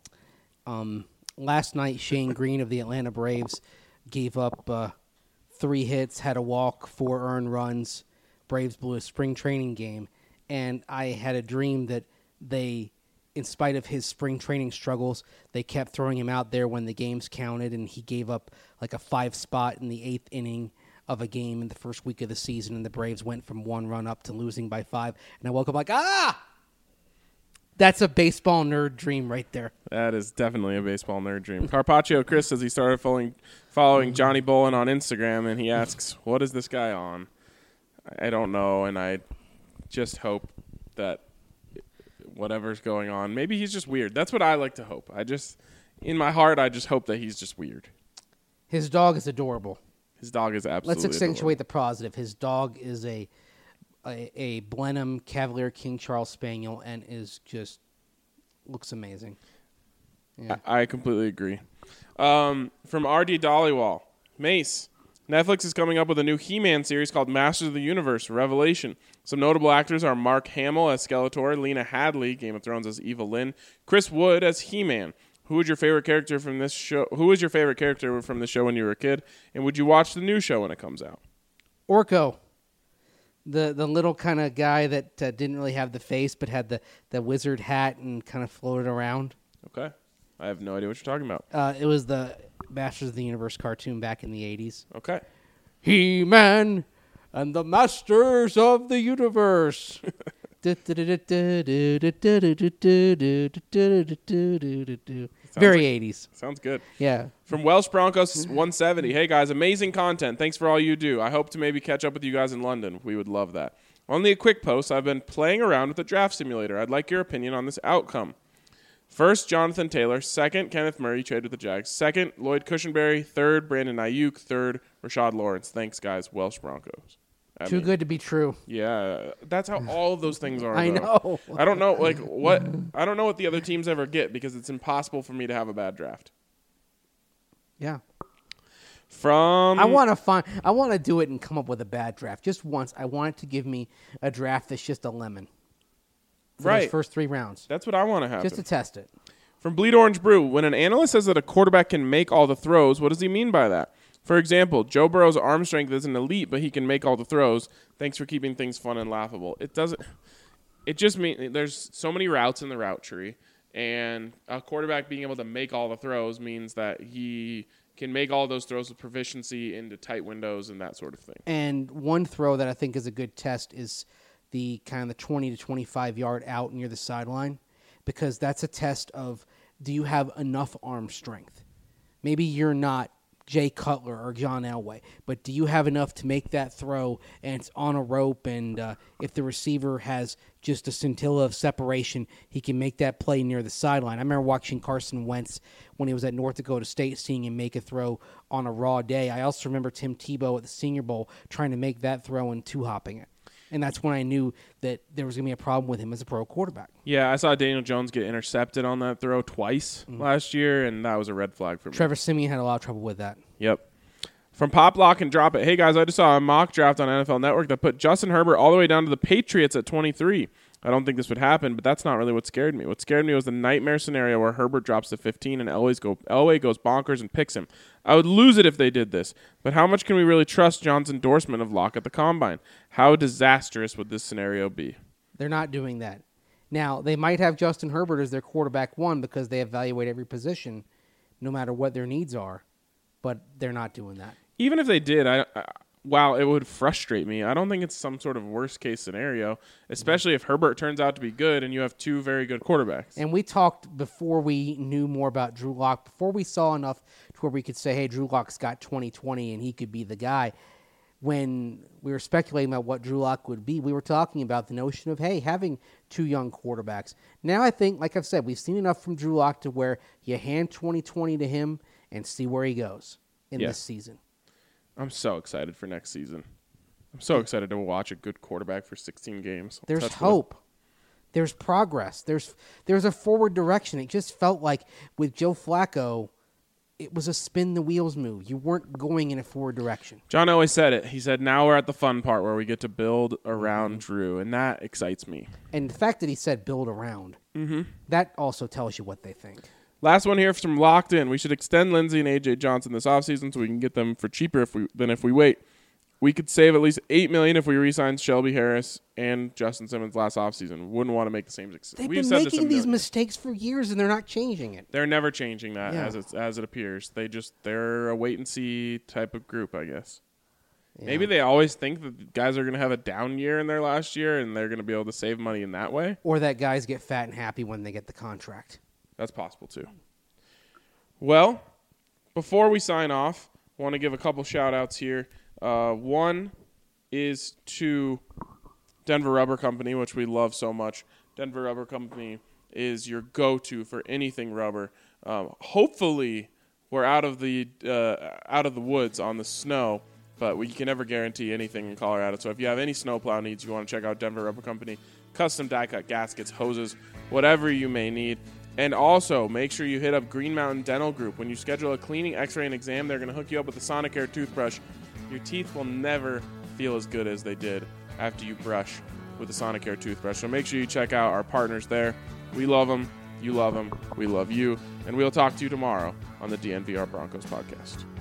Last night, Shane Green of the Atlanta Braves gave up 3 hits, had a walk, 4 earned runs. Braves blew a spring training game, and I had a dream that they, in spite of his spring training struggles, they kept throwing him out there when the games counted, and he gave up like a 5 spot in the 8th inning of a game in the first week of the season, and the Braves went from 1 run up to losing by 5. And I woke up like, that's a baseball nerd dream right there. That is definitely a baseball nerd dream. Carpaccio Chris says he started following Johnny Bolin on Instagram, and he asks, what is this guy on? I don't know, and I just hope that whatever's going on, maybe he's just weird. That's what I like to hope. In my heart, I just hope that he's just weird. His dog is adorable. His dog is absolutely Let's accentuate adorable. the positive. His dog is a Blenheim Cavalier King Charles Spaniel and looks amazing. Yeah. I completely agree. From R.D. Dollywall, Mace, Netflix is coming up with a new He-Man series called Masters of the Universe, Revelation. Some notable actors are Mark Hamill as Skeletor, Lena Headey, Game of Thrones as Eva Lynn, Chris Wood as He-Man. Who was your favorite character from this show? Who was your favorite character from the show when you were a kid? And would you watch the new show when it comes out? Orko, the little kind of guy that didn't really have the face but had the wizard hat and kind of floated around. Okay. I have no idea what you're talking about. It was the Masters of the Universe cartoon back in the 80s. Okay. He-Man and the Masters of the Universe. Very 80s. Sounds good. Yeah. From Welsh Broncos 170. Hey, guys, amazing content. Thanks for all you do. I hope to maybe catch up with you guys in London. We would love that. Only a quick post. I've been playing around with the draft simulator. I'd like your opinion on this outcome. First, Jonathan Taylor. Second, Kenneth Murray, trade with the Jags. Second, Lloyd Cushenberry. Third, Brandon Ayuk. Third, Rashad Lawrence. Thanks, guys. Welsh Broncos. Too good to be true. Yeah, that's how all of those things are. I know. I don't know, I don't know what the other teams ever get because it's impossible for me to have a bad draft. Yeah. I want to do it and come up with a bad draft just once. I want it to give me a draft that's just a lemon. For those first 3 rounds. That's what I want to have. Just to test it. From Bleed Orange Brew, when an analyst says that a quarterback can make all the throws, what does he mean by that? For example, Joe Burrow's arm strength isn't elite, but he can make all the throws. Thanks for keeping things fun and laughable. It just means there's so many routes in the route tree, and a quarterback being able to make all the throws means that he can make all those throws with proficiency into tight windows and that sort of thing. And one throw that I think is a good test is the kind of the 20 to 25 yard out near the sideline, because that's a test of, do you have enough arm strength? Maybe you're not Jay Cutler or John Elway, but do you have enough to make that throw and it's on a rope, and if the receiver has just a scintilla of separation, he can make that play near the sideline. I remember watching Carson Wentz when he was at North Dakota State, seeing him make a throw on a raw day. I also remember Tim Tebow at the Senior Bowl trying to make that throw and two-hopping it. And that's when I knew that there was going to be a problem with him as a pro quarterback. Yeah, I saw Daniel Jones get intercepted on that throw twice last year, and that was a red flag for me. Trevor Siemian had a lot of trouble with that. Yep. From Pop Lock and Drop It. Hey, guys, I just saw a mock draft on NFL Network that put Justin Herbert all the way down to the Patriots at 23. I don't think this would happen, but that's not really what scared me. What scared me was the nightmare scenario where Herbert drops to 15 and Elway goes bonkers and picks him. I would lose it if they did this, but how much can we really trust John's endorsement of Locke at the Combine? How disastrous would this scenario be? They're not doing that. Now, they might have Justin Herbert as their quarterback one because they evaluate every position no matter what their needs are, but they're not doing that. Even if they did, while it would frustrate me, I don't think it's some sort of worst-case scenario, especially if Herbert turns out to be good and you have two very good quarterbacks. And we talked before we knew more about Drew Lock, before we saw enough to where we could say, hey, Drew Lock's got 20/20 and he could be the guy. When we were speculating about what Drew Lock would be, we were talking about the notion of, hey, having two young quarterbacks. Now I think, like I've said, we've seen enough from Drew Lock to where you hand 20/20 to him and see where he goes in this season. I'm so excited for next season. I'm so excited to watch a good quarterback for 16 games. There's hope. There's progress. There's a forward direction. It just felt like with Joe Flacco, it was a spin the wheels move. You weren't going in a forward direction. John always said it. He said, now we're at the fun part where we get to build around Drew, and that excites me. And the fact that he said build around, that also tells you what they think. Last one here from Locked In. We should extend Lindsey and A.J. Johnson this offseason so we can get them for cheaper if we wait. we could save at least $8 million if we re-signed Shelby Harris and Justin Simmons last offseason. Wouldn't want to make the same mistake. They've been making these mistakes for years, and they're not changing it. They're never changing that as it appears. They're a wait and see type of group, I guess. Yeah. Maybe they always think that guys are going to have a down year in their last year, and they're going to be able to save money in that way. Or that guys get fat and happy when they get the contract. That's possible too. Well, before we sign off, I want to give a couple shout-outs here. One is to Denver Rubber Company, which we love so much. Denver Rubber Company is your go-to for anything rubber. Hopefully, we're out of the woods on the snow, but we can never guarantee anything in Colorado. So if you have any snowplow needs, you want to check out Denver Rubber Company. Custom die-cut gaskets, hoses, whatever you may need. And also, make sure you hit up Green Mountain Dental Group. When you schedule a cleaning, x-ray, and exam, they're going to hook you up with a Sonicare toothbrush. Your teeth will never feel as good as they did after you brush with a Sonicare toothbrush. So make sure you check out our partners there. We love them. You love them. We love you. And we'll talk to you tomorrow on the DNVR Broncos podcast.